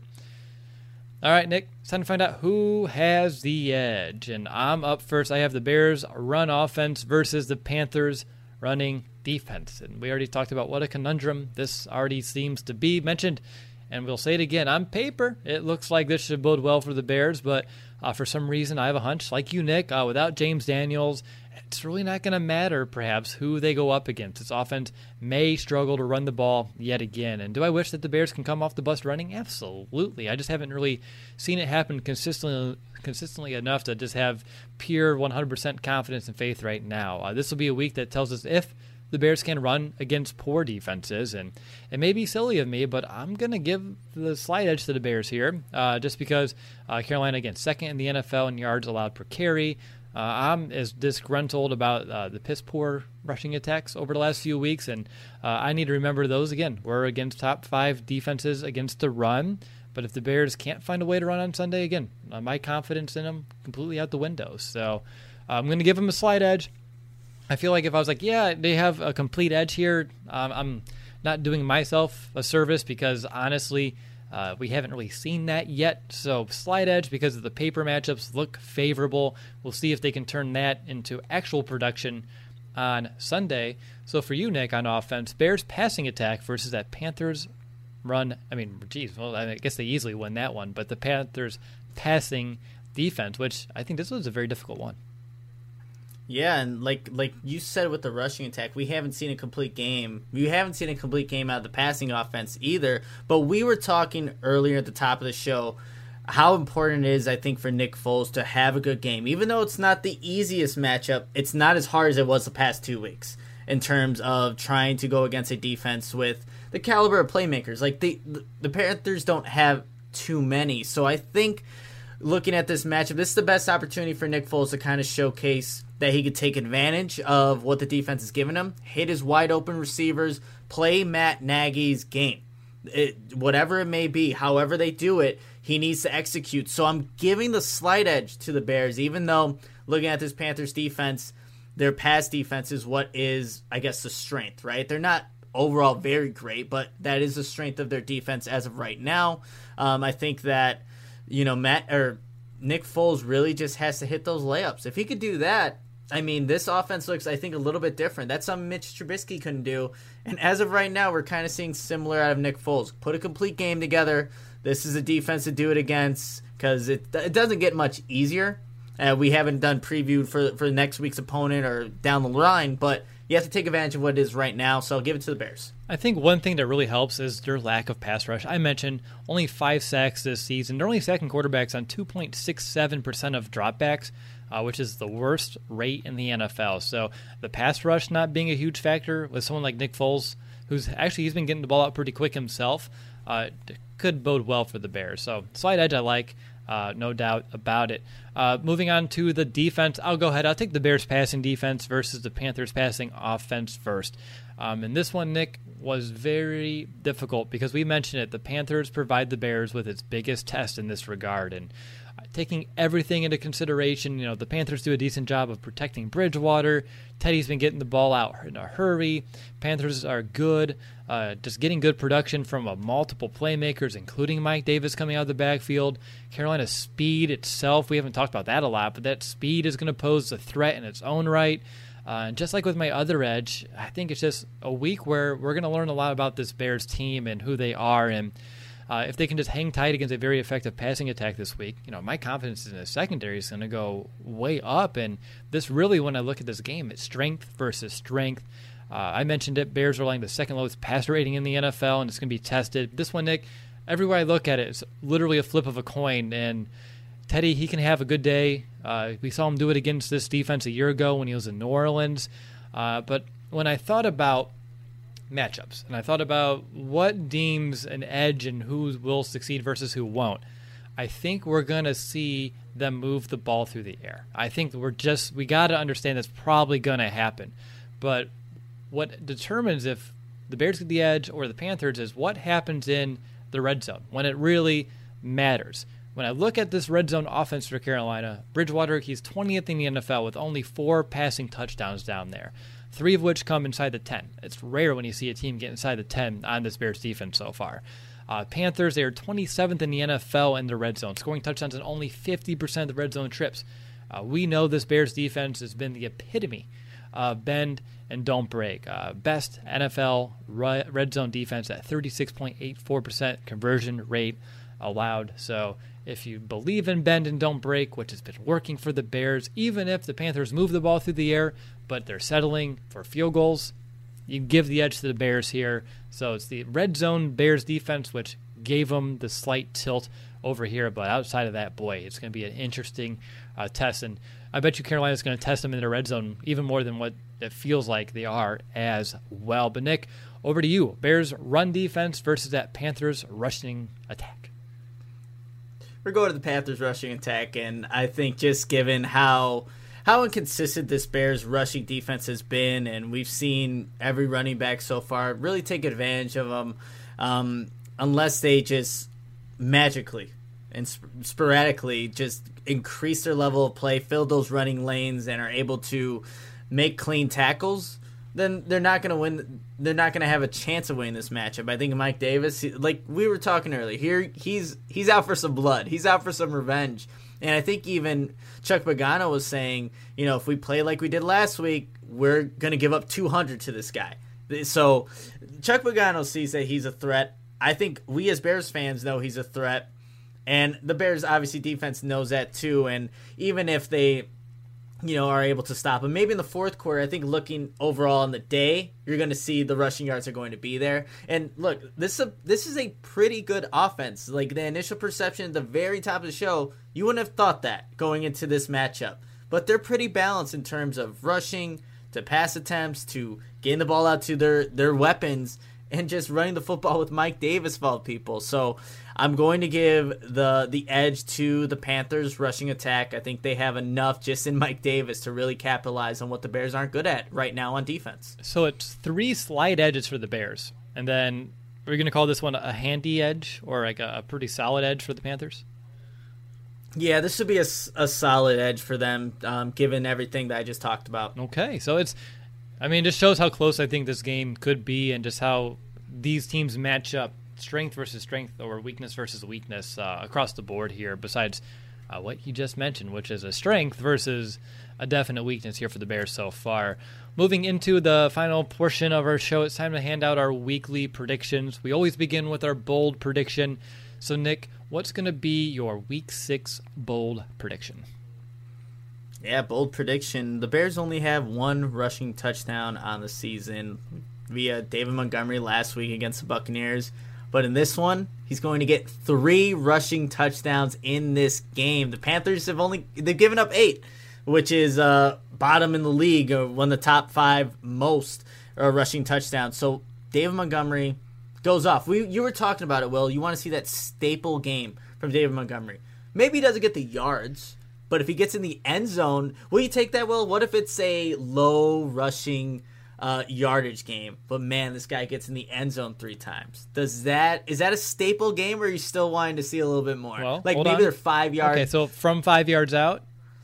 Speaker 3: All right, Nick, it's time to find out who has the edge. And I'm up first. I have the Bears run offense versus the Panthers running defense. And we already talked about what a conundrum this already seems to be. Mentioned, and we'll say it again, on paper, it looks like this should bode well for the Bears, but uh, for some reason I have a hunch, like you, Nick, uh, without James Daniels, it's really not going to matter, perhaps, who they go up against. This offense may struggle to run the ball yet again. And do I wish that the Bears can come off the bus running? Absolutely. I just haven't really seen it happen consistently consistently enough to just have pure one hundred percent confidence and faith right now. Uh, this will be a week that tells us if the Bears can run against poor defenses. And it may be silly of me, but I'm going to give the slight edge to the Bears here, uh, just because uh, Carolina, again, second in the N F L in yards allowed per carry. Uh, I'm as disgruntled about uh, the piss-poor rushing attacks over the last few weeks, and uh, I need to remember those again. We're against top five defenses against the run, but if the Bears can't find a way to run on Sunday, again, uh, my confidence in them completely out the window. So uh, I'm going to give them a slight edge. I feel like if I was like, yeah, they have a complete edge here, um, I'm not doing myself a service because, honestly, Uh, we haven't really seen that yet, so slight edge because of the paper matchups look favorable. We'll see if they can turn that into actual production on Sunday. So for you, Nick, on offense, Bears passing attack versus that Panthers run. I mean, geez, well, I guess they easily win that one, but the Panthers passing defense, which I think this was a very difficult one.
Speaker 4: Yeah, and like like you said with the rushing attack, we haven't seen a complete game. We haven't seen a complete game out of the passing offense either. But we were talking earlier at the top of the show how important it is, I think, for Nick Foles to have a good game. Even though it's not the easiest matchup, it's not as hard as it was the past two weeks in terms of trying to go against a defense with the caliber of playmakers. Like, the, the Panthers don't have too many. So I think looking at this matchup, this is the best opportunity for Nick Foles to kind of showcase that he could take advantage of what the defense is giving him, hit his wide open receivers, play Matt Nagy's game. It, whatever it may be, however they do it, he needs to execute. So I'm giving the slight edge to the Bears, even though looking at this Panthers defense, their pass defense is what is, I guess, the strength, right? They're not overall very great, but that is the strength of their defense as of right now. Um, I think that, you know, Matt or Nick Foles really just has to hit those layups. If he could do that, I mean, this offense looks, I think, a little bit different. That's something Mitch Trubisky couldn't do. And as of right now, we're kind of seeing similar out of Nick Foles. Put a complete game together. This is a defense to do it against because it, it doesn't get much easier. Uh, we haven't done preview for, for next week's opponent or down the line, but you have to take advantage of what it is right now, so I'll give it to the Bears.
Speaker 3: I think one thing that really helps is their lack of pass rush. I mentioned only five sacks this season. They're only sacking quarterbacks on two point six seven percent of dropbacks, uh, which is the worst rate in the N F L. So the pass rush not being a huge factor with someone like Nick Foles, who's actually he's been getting the ball out pretty quick himself, uh, could bode well for the Bears. So slight edge I like. Uh, no doubt about it. Uh, moving on to the defense, I'll go ahead. I'll take the Bears passing defense versus the Panthers passing offense first. Um, and this one, Nick, was very difficult because we mentioned it. The Panthers provide the Bears with its biggest test in this regard. And uh, taking everything into consideration, you know, the Panthers do a decent job of protecting Bridgewater. Teddy's been getting the ball out in a hurry. Panthers are good, uh, just getting good production from uh, multiple playmakers, including Mike Davis coming out of the backfield. Carolina's speed itself, we haven't talked about that a lot, but that speed is going to pose a threat in its own right. Uh, and just like with my other edge, I think it's just a week where we're going to learn a lot about this Bears team and who they are. And Uh, if they can just hang tight against a very effective passing attack this week, you know, my confidence in the secondary is going to go way up. And this really, when I look at this game, it's strength versus strength. Uh, I mentioned it. Bears are allowing the second lowest passer rating in the N F L, and it's going to be tested. This one, Nick, everywhere I look at it, it's literally a flip of a coin. And Teddy, he can have a good day. Uh, we saw him do it against this defense a year ago when he was in New Orleans. Uh, but when I thought about matchups, and I thought about what deems an edge and who will succeed versus who won't, I think we're going to see them move the ball through the air. I think we're just, we got to understand that's probably going to happen. But what determines if the Bears get the edge or the Panthers is what happens in the red zone when it really matters. When I look at this red zone offense for Carolina, Bridgewater, he's twentieth in the N F L with only four passing touchdowns down there, three of which come inside the ten. It's rare when you see a team get inside the ten on this Bears defense so far. Uh, Panthers, they are twenty-seventh in the N F L in the red zone, scoring touchdowns in only fifty percent of the red zone trips. Uh, we know this Bears defense has been the epitome of bend and don't break. Uh, best N F L red zone defense at thirty-six point eight four percent conversion rate allowed. So if you believe in bend and don't break, which has been working for the Bears, even if the Panthers move the ball through the air, but they're settling for field goals, you give the edge to the Bears here. So it's the red zone Bears defense, which gave them the slight tilt over here. But outside of that, boy, it's going to be an interesting uh, test. And I bet you Carolina's going to test them in the red zone even more than what it feels like they are as well. But Nick, over to you. Bears run defense versus that Panthers rushing attack.
Speaker 4: We're going to the Panthers rushing attack, and I think just given how how inconsistent this Bears rushing defense has been, and we've seen every running back so far really take advantage of them, um, unless they just magically and sp- sporadically just increase their level of play, fill those running lanes, and are able to make clean tackles, then they're not going to win. They're not going to have a chance of winning this matchup. I think Mike Davis, like we were talking earlier, here he's he's out for some blood. He's out for some revenge. And I think even Chuck Pagano was saying, you know, if we play like we did last week, we're going to give up two hundred to this guy. So Chuck Pagano sees that he's a threat. I think we as Bears fans know he's a threat. And the Bears, obviously, defense knows that too. And even if they, you know, are able to stop him, maybe in the fourth quarter, I think looking overall on the day, you're going to see the rushing yards are going to be there. And look, this is a, this is a pretty good offense. Like the initial perception at the very top of the show, you wouldn't have thought that going into this matchup. But they're pretty balanced in terms of rushing, to pass attempts, to getting the ball out to their, their weapons, and just running the football with Mike Davis of all people. So I'm going to give the the edge to the Panthers rushing attack. I think they have enough just in Mike Davis to really capitalize on what the Bears aren't good at right now on defense.
Speaker 3: So it's three slight edges for the Bears. And then we're going to call this one a handy edge or like a, a pretty solid edge for the Panthers?
Speaker 4: Yeah, this should be a, a solid edge for them, um, given everything that I just talked about.
Speaker 3: Okay, so it's, I mean, it just shows how close I think this game could be and just how these teams match up, strength versus strength or weakness versus weakness uh, across the board here, besides uh, what you just mentioned, which is a strength versus a definite weakness here for the Bears so far. Moving into the final portion of our show, it's time to hand out our weekly predictions. We always begin with our bold prediction. So, Nick, what's going to be your Week six bold prediction?
Speaker 4: Yeah, bold prediction. The Bears only have one rushing touchdown on the season via David Montgomery last week against the Buccaneers. But in this one, he's going to get three rushing touchdowns in this game. The Panthers have only they've given up eight, which is uh, bottom in the league, or one of the top five most uh, rushing touchdowns. So David Montgomery goes off. We you were talking about it, Will. You want to see that staple game from David Montgomery. Maybe he doesn't get the yards, but if he gets in the end zone, will you take that, Will? What if it's a low rushing uh, yardage game, but man, this guy gets in the end zone three times? Does that is that a staple game, or are you still wanting to see a little bit more?
Speaker 3: Well,
Speaker 4: like maybe
Speaker 3: on.
Speaker 4: they're five yards.
Speaker 3: Okay, so from five yards out,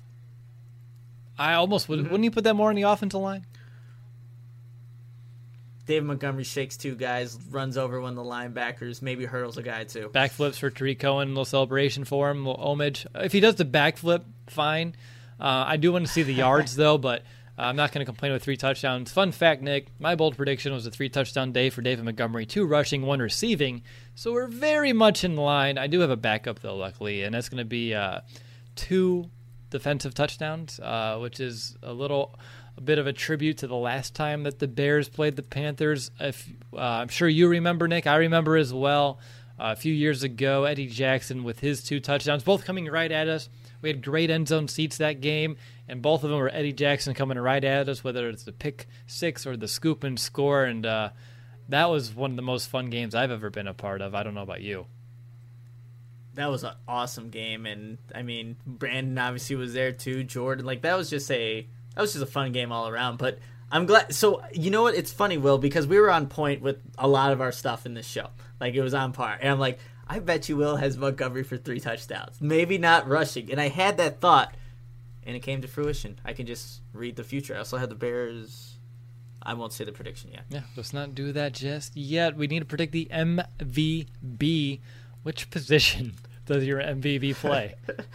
Speaker 3: I almost would. Mm-hmm. Wouldn't you put that more on the offensive line?
Speaker 4: David Montgomery shakes two guys, runs over one of the linebackers, maybe hurdles a guy too.
Speaker 3: Backflips for Tariq Cohen, a little celebration for him, a little homage. If he does the backflip, fine. Uh, I do want to see the yards though, but I'm not going to complain with three touchdowns. Fun fact, Nick, my bold prediction was a three-touchdown day for David Montgomery, two rushing, one receiving. So we're very much in line. I do have a backup, though, luckily, and that's going to be uh, two defensive touchdowns, uh, which is a little a bit of a tribute to the last time that the Bears played the Panthers. If uh, I'm sure you remember, Nick. I remember as well. Uh, a few years ago, Eddie Jackson with his two touchdowns, both coming right at us. We had great end zone seats that game, and both of them were Eddie Jackson coming right at us, whether it's the pick six or the scoop and score. And uh, that was one of the most fun games I've ever been a part of. I don't know about you.
Speaker 4: That was an awesome game, and I mean, Brandon obviously was there too. Jordan, like that was just a that was just a fun game all around. But I'm glad. So you know what? It's funny, Will, because we were on point with a lot of our stuff in this show. Like it was on par, and I'm like, I bet you Will has Montgomery for three touchdowns, maybe not rushing. And I had that thought, and it came to fruition. I can just read the future. I also had the Bears. I won't say the prediction yet.
Speaker 3: Yeah, let's not do that just yet. We need to predict the M V B. Which position does your M V B play?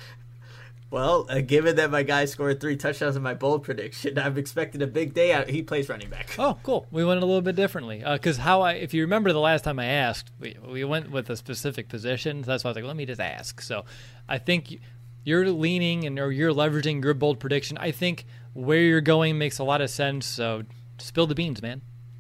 Speaker 4: Well, uh, given that my guy scored three touchdowns in my bold prediction, I'm expecting a big day out. He plays running back.
Speaker 3: Oh, cool. We went a little bit differently. Because uh, how I, if you remember the last time I asked, we, we went with a specific position. So that's why I was like, let me just ask. So I think you're leaning and or you're leveraging your bold prediction. I think where you're going makes a lot of sense. So spill the beans, man.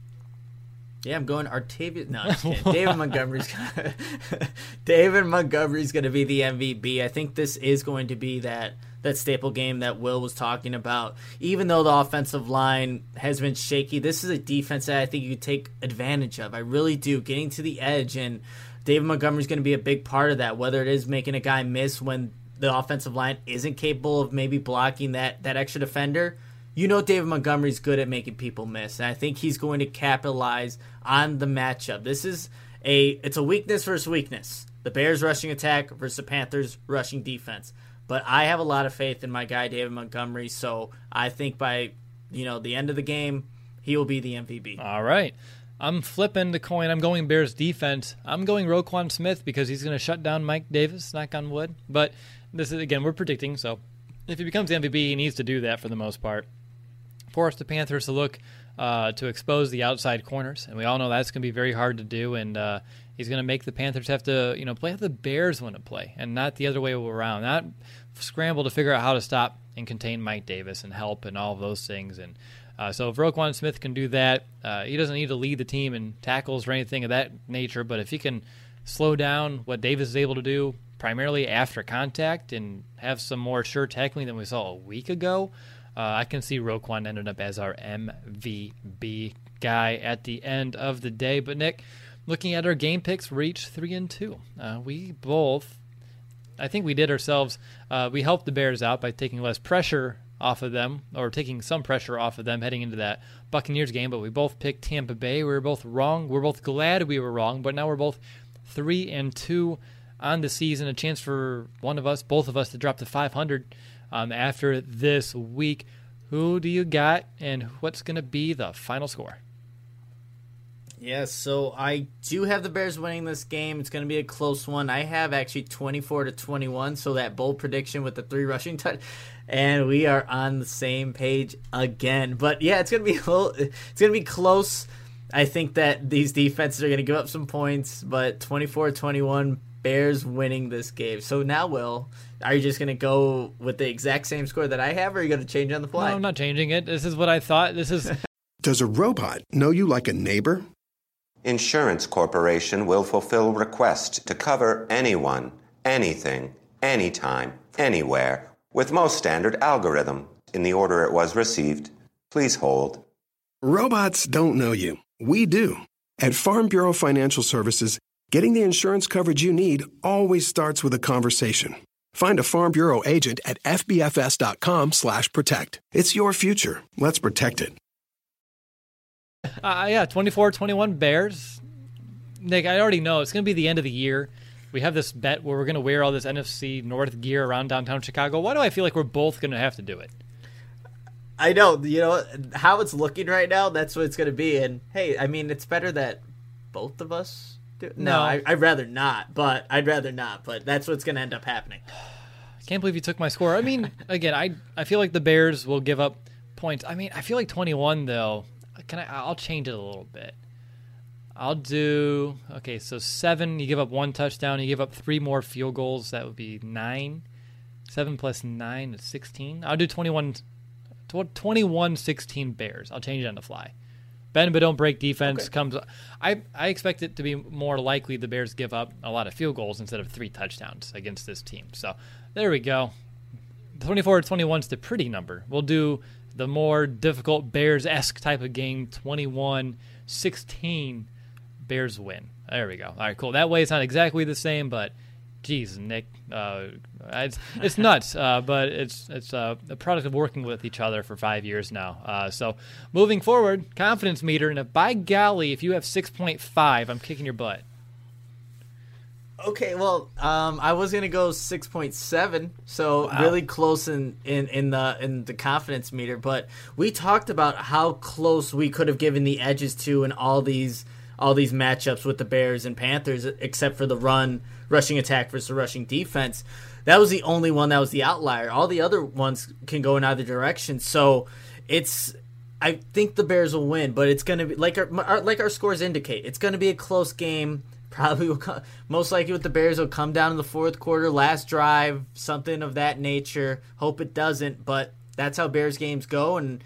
Speaker 4: Yeah, I'm going Artavius. No, I'm just kidding. David Montgomery's gonna, David Montgomery's going to be the M V B. I think this is going to be that that staple game that Will was talking about. Even though the offensive line has been shaky, this is a defense that I think you could take advantage of. I really do. Getting to the edge, and David Montgomery's going to be a big part of that, whether it is making a guy miss when the offensive line isn't capable of maybe blocking that, that extra defender. You know David Montgomery's good at making people miss, and I think he's going to capitalize on the matchup. This is a it's a weakness versus weakness. The Bears rushing attack versus the Panthers rushing defense. But I have a lot of faith in my guy David Montgomery, so I think by you know the end of the game, he will be the M V B.
Speaker 3: All right. I'm flipping the coin. I'm going Bears defense. I'm going Roquan Smith because he's going to shut down Mike Davis, knock on wood. But this is, again, we're predicting, so if he becomes the M V B, he needs to do that for the most part. Force the Panthers to look uh, to expose the outside corners, and we all know that's going to be very hard to do. And uh, he's going to make the Panthers have to, you know, play how the Bears want to play, and not the other way around. Not scramble to figure out how to stop and contain Mike Davis and help and all of those things. And uh, so if Roquan Smith can do that, uh, he doesn't need to lead the team in tackles or anything of that nature. But if he can slow down what Davis is able to do, primarily after contact, and have some more sure tackling than we saw a week ago. Uh, I can see Roquan ended up as our M V B guy at the end of the day. But, Nick, looking at our game picks, we're each three and two. Uh, we both, I think we did ourselves, uh, we helped the Bears out by taking less pressure off of them, or taking some pressure off of them heading into that Buccaneers game. But we both picked Tampa Bay. We were both wrong. We're both glad we were wrong. But now we're both three and two on the season. A chance for one of us, both of us, to drop to five hundred. Um, after this week. Who do you got, and what's going to be the final score?
Speaker 4: Yeah, so I do have the Bears winning this game. It's going to be a close one. I have actually twenty-four to twenty-one, so that bold prediction with the three rushing touch, and we are on the same page again. But yeah, it's going to be a little, it's going to be close. I think that these defenses are going to give up some points, but twenty-four to twenty-one, Bears winning this game. So now, Will, are you just going to go with the exact same score that I have, or are you going to change on the fly?
Speaker 3: No, I'm not changing it. This is what I thought. This is.
Speaker 1: Does a robot know you like a neighbor?
Speaker 2: Insurance Corporation will fulfill request to cover anyone, anything, anytime, anywhere, with most standard algorithm in the order it was received. Please hold.
Speaker 1: Robots don't know you. We do. At Farm Bureau Financial Services, getting the insurance coverage you need always starts with a conversation. Find a Farm Bureau agent at fbfs.com slash protect. It's your future. Let's protect it.
Speaker 3: Uh, yeah, twenty-four twenty-one Bears. Nick, I already know it's going to be the end of the year. We have this bet where we're going to wear all this N F C North gear around downtown Chicago. Why do I feel like we're both going to have to do it?
Speaker 4: I know. You know, how it's looking right now, that's what it's going to be. And, hey, I mean, it's better that both of us do it. No,
Speaker 3: No.
Speaker 4: I, I'd rather not, but I'd rather not. But that's what's going to end up happening.
Speaker 3: I can't believe you took my score. I mean, again, I I feel like the Bears will give up points. I mean, I feel like twenty-one though. Can I? I'll change it a little bit. I'll do okay. So seven. You give up one touchdown. You give up three more field goals. That would be nine. Seven plus nine is sixteen. I'll do twenty-one. twenty-one sixteen Bears. I'll change it on the fly. Bend but don't break defense okay. comes. I I expect it to be more likely the Bears give up a lot of field goals instead of three touchdowns against this team. So there we go. twenty-four to twenty-one is the pretty number. We'll do the more difficult Bears-esque type of game. twenty-one sixteen Bears win. There we go. All right, cool. That way it's not exactly the same, but geez, Nick, uh, it's it's nuts, uh, but it's it's uh, a product of working with each other for five years now. Uh, so moving forward, confidence meter, and if, by golly, if you have six point five, I'm kicking your butt.
Speaker 4: Okay, well, um, I was gonna go six point seven, so wow. really close in, in, in the in the confidence meter. But we talked about how close we could have given the edges to in all these all these matchups with the Bears and Panthers, except for the run. Rushing attack versus rushing defense. That was the only one that was the outlier. All the other ones can go in either direction. So it's, I think the Bears will win, but it's going to be like our, our like our scores indicate. It's going to be a close game. Probably will come, most likely with the Bears will come down in the fourth quarter, last drive, something of that nature. Hope it doesn't, but that's how Bears games go, and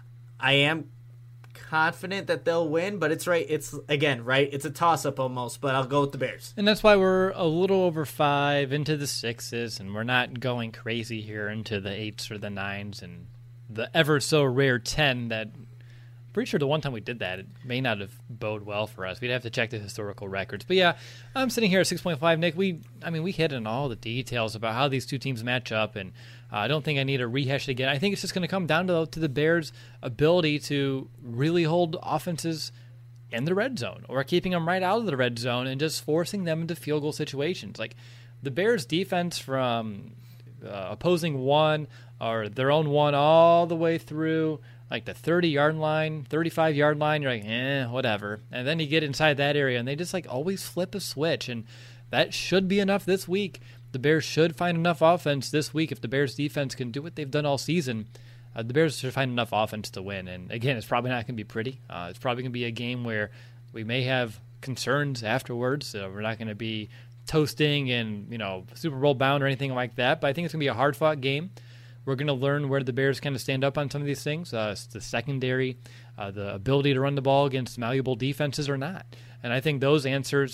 Speaker 4: I am confident that they'll win, but it's right. It's again, right. It's a toss-up almost, but I'll go with the Bears.
Speaker 3: And that's why we're a little over five into the sixes, and we're not going crazy here into the eights or the nines and the ever so rare ten that I'm pretty sure the one time we did that, it may not have bode well for us. We'd have to check the historical records. But yeah, I'm sitting here at six point five. Nick, we, I mean, we hit on all the details about how these two teams match up, and uh, I don't think I need to rehash it again. I think it's just going to come down to, to the Bears' ability to really hold offenses in the red zone or keeping them right out of the red zone and just forcing them into field goal situations. Like the Bears' defense from uh, opposing one or their own one all the way through like the thirty-yard line, thirty-five-yard line, you're like, eh, whatever. And then you get inside that area, and they just like always flip a switch, and that should be enough this week. The Bears should find enough offense this week if the Bears' defense can do what they've done all season. Uh, the Bears should find enough offense to win. And again, it's probably not going to be pretty. Uh, it's probably going to be a game where we may have concerns afterwards. So we're not going to be toasting and, you know, Super Bowl bound or anything like that. But I think it's going to be a hard-fought game. We're going to learn where the Bears kind of stand up on some of these things. Uh, the secondary, uh, the ability to run the ball against malleable defenses or not. And I think those answers,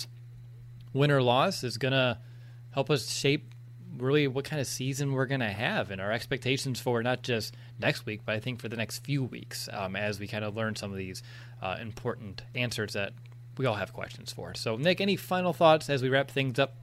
Speaker 3: win or loss, is going to help us shape really what kind of season we're going to have and our expectations for not just next week, but I think for the next few weeks um, as we kind of learn some of these uh, important answers that we all have questions for. So, Nick, any final thoughts as we wrap things up?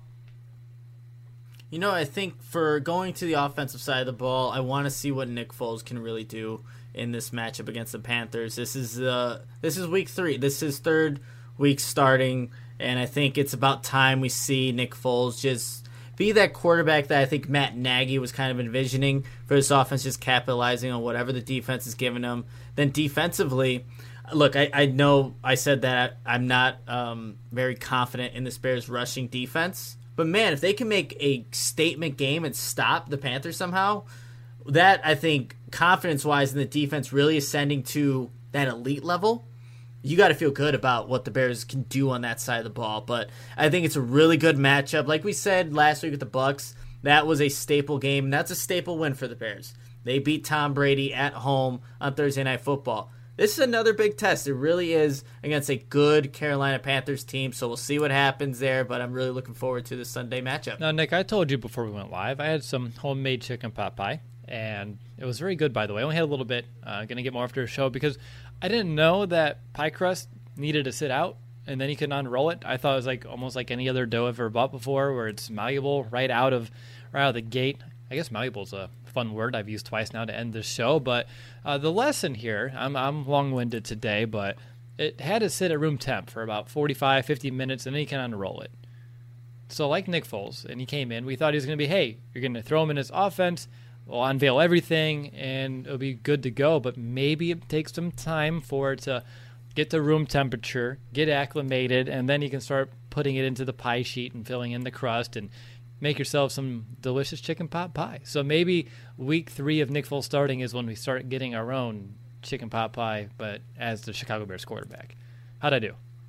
Speaker 4: You know, I think for going to the offensive side of the ball, I want to see what Nick Foles can really do in this matchup against the Panthers. This is uh, this is week three. This is third week starting, and I think it's about time we see Nick Foles just be that quarterback that I think Matt Nagy was kind of envisioning for this offense, just capitalizing on whatever the defense is giving them. Then defensively, look, I, I know I said that I'm not um, very confident in this Bears rushing defense. But, man, if they can make a statement game and stop the Panthers somehow, that, I think, confidence-wise in the defense really ascending to that elite level, you got to feel good about what the Bears can do on that side of the ball. But I think it's a really good matchup. Like we said last week with the Bucs, that was a staple game, and that's a staple win for the Bears. They beat Tom Brady at home on Thursday Night Football. This is another big test. It really is against a good Carolina Panthers team, so we'll see what happens there, but I'm really looking forward to the Sunday matchup.
Speaker 3: Now, Nick, I told you before we went live, I had some homemade chicken pot pie, and it was very good, by the way. I only had a little bit. Uh, going to get more after the show because I didn't know that pie crust needed to sit out, and then you could unroll it. I thought it was like almost like any other dough I've ever bought before where it's malleable right out of right out of the gate. I guess malleable is a fun word I've used twice now to end the show, but uh, the lesson here, I'm, I'm long-winded today, but it had to sit at room temp for about forty-five, fifty minutes, and then you can unroll it. So like Nick Foles, and he came in, we thought he was going to be, hey, you're going to throw him in his offense, we'll unveil everything, and it'll be good to go, but maybe it takes some time for it to get to room temperature, get acclimated, and then you can start putting it into the pie sheet and filling in the crust and make yourself some delicious chicken pot pie. So maybe week three of Nick Foles starting is when we start getting our own chicken pot pie, but as the Chicago Bears quarterback. How'd I do?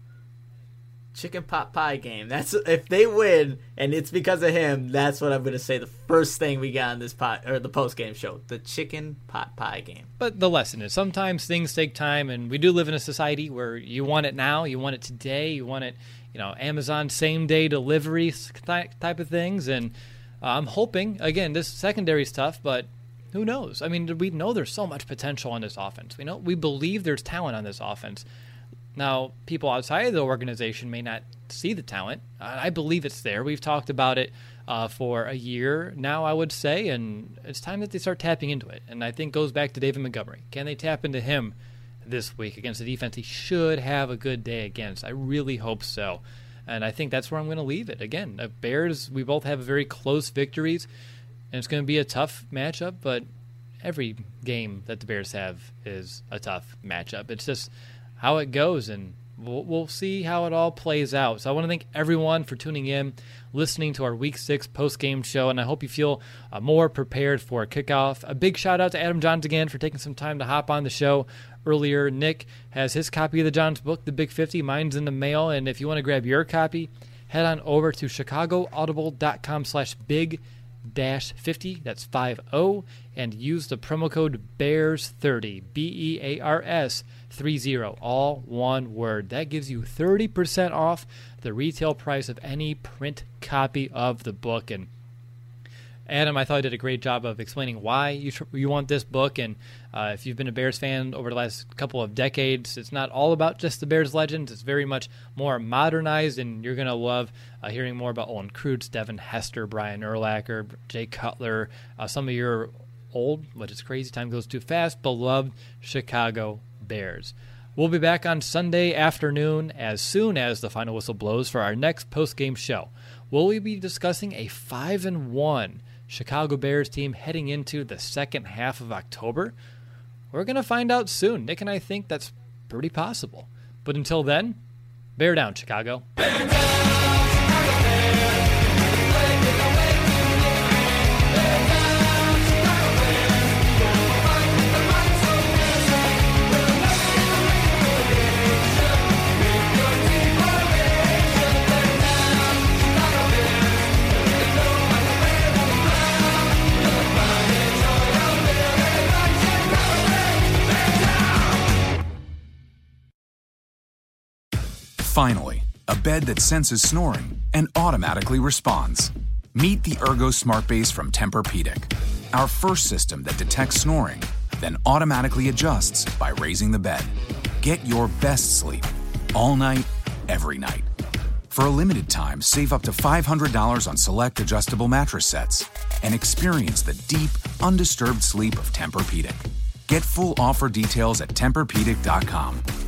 Speaker 7: Chicken pot pie game. That's if they win and it's because of him. That's what I'm going to say. The first thing we got on this pot or the post game show, the chicken pot pie game.
Speaker 3: But the lesson is sometimes things take time, and we do live in a society where you want it now, you want it today, you want it, you know, Amazon same day delivery type of things. And uh, I'm hoping again this secondary is tough, but who knows? I mean, we know there's so much potential on this offense. We know we believe there's talent on this offense. Now, people outside of the organization may not see the talent. I believe it's there. We've talked about it uh, for a year now, I would say, and it's time that they start tapping into it. And I think it goes back to David Montgomery. Can they tap into him this week against the defense he should have a good day against? I really hope so. And I think that's where I'm going to leave it. Again, the Bears, we both have very close victories, and it's going to be a tough matchup, but every game that the Bears have is a tough matchup. It's just how it goes, and we'll, we'll see how it all plays out. So I want to thank everyone for tuning in, listening to our Week six post-game show, and I hope you feel uh, more prepared for a kickoff. A big shout-out to Adam Johns again for taking some time to hop on the show earlier. Nick has his copy of the Johns book, The Big fifty. Mine's in the mail, and if you want to grab your copy, head on over to chicagoaudible.com slash big dash 50, that's five oh, and use the promo code bears thirty, B E A R S thirty, all one word. That gives you thirty percent off the retail price of any print copy of the book. And Adam, I thought I did a great job of explaining why you tr- you want this book. And uh, if you've been a Bears fan over the last couple of decades, it's not all about just the Bears legends. It's very much more modernized, and you're going to love uh, hearing more about Olin Kreutz, Devin Hester, Brian Urlacher, Jay Cutler, uh, some of your old, which is crazy, time goes too fast, beloved Chicago Bears. We'll be back on Sunday afternoon as soon as the final whistle blows for our next post-game show. Will we be discussing a five and one Chicago Bears team heading into the second half of October? We're going to find out soon. Nick and I think that's pretty possible. But until then, bear down, Chicago. Bear down, Chicago Bears.
Speaker 6: Finally, a bed that senses snoring and automatically responds. Meet the Ergo Smart Base from Tempur-Pedic, our first system that detects snoring, then automatically adjusts by raising the bed. Get your best sleep all night, every night. For a limited time, save up to five hundred dollars on select adjustable mattress sets and experience the deep, undisturbed sleep of Tempur-Pedic. Get full offer details at Tempur Pedic dot com.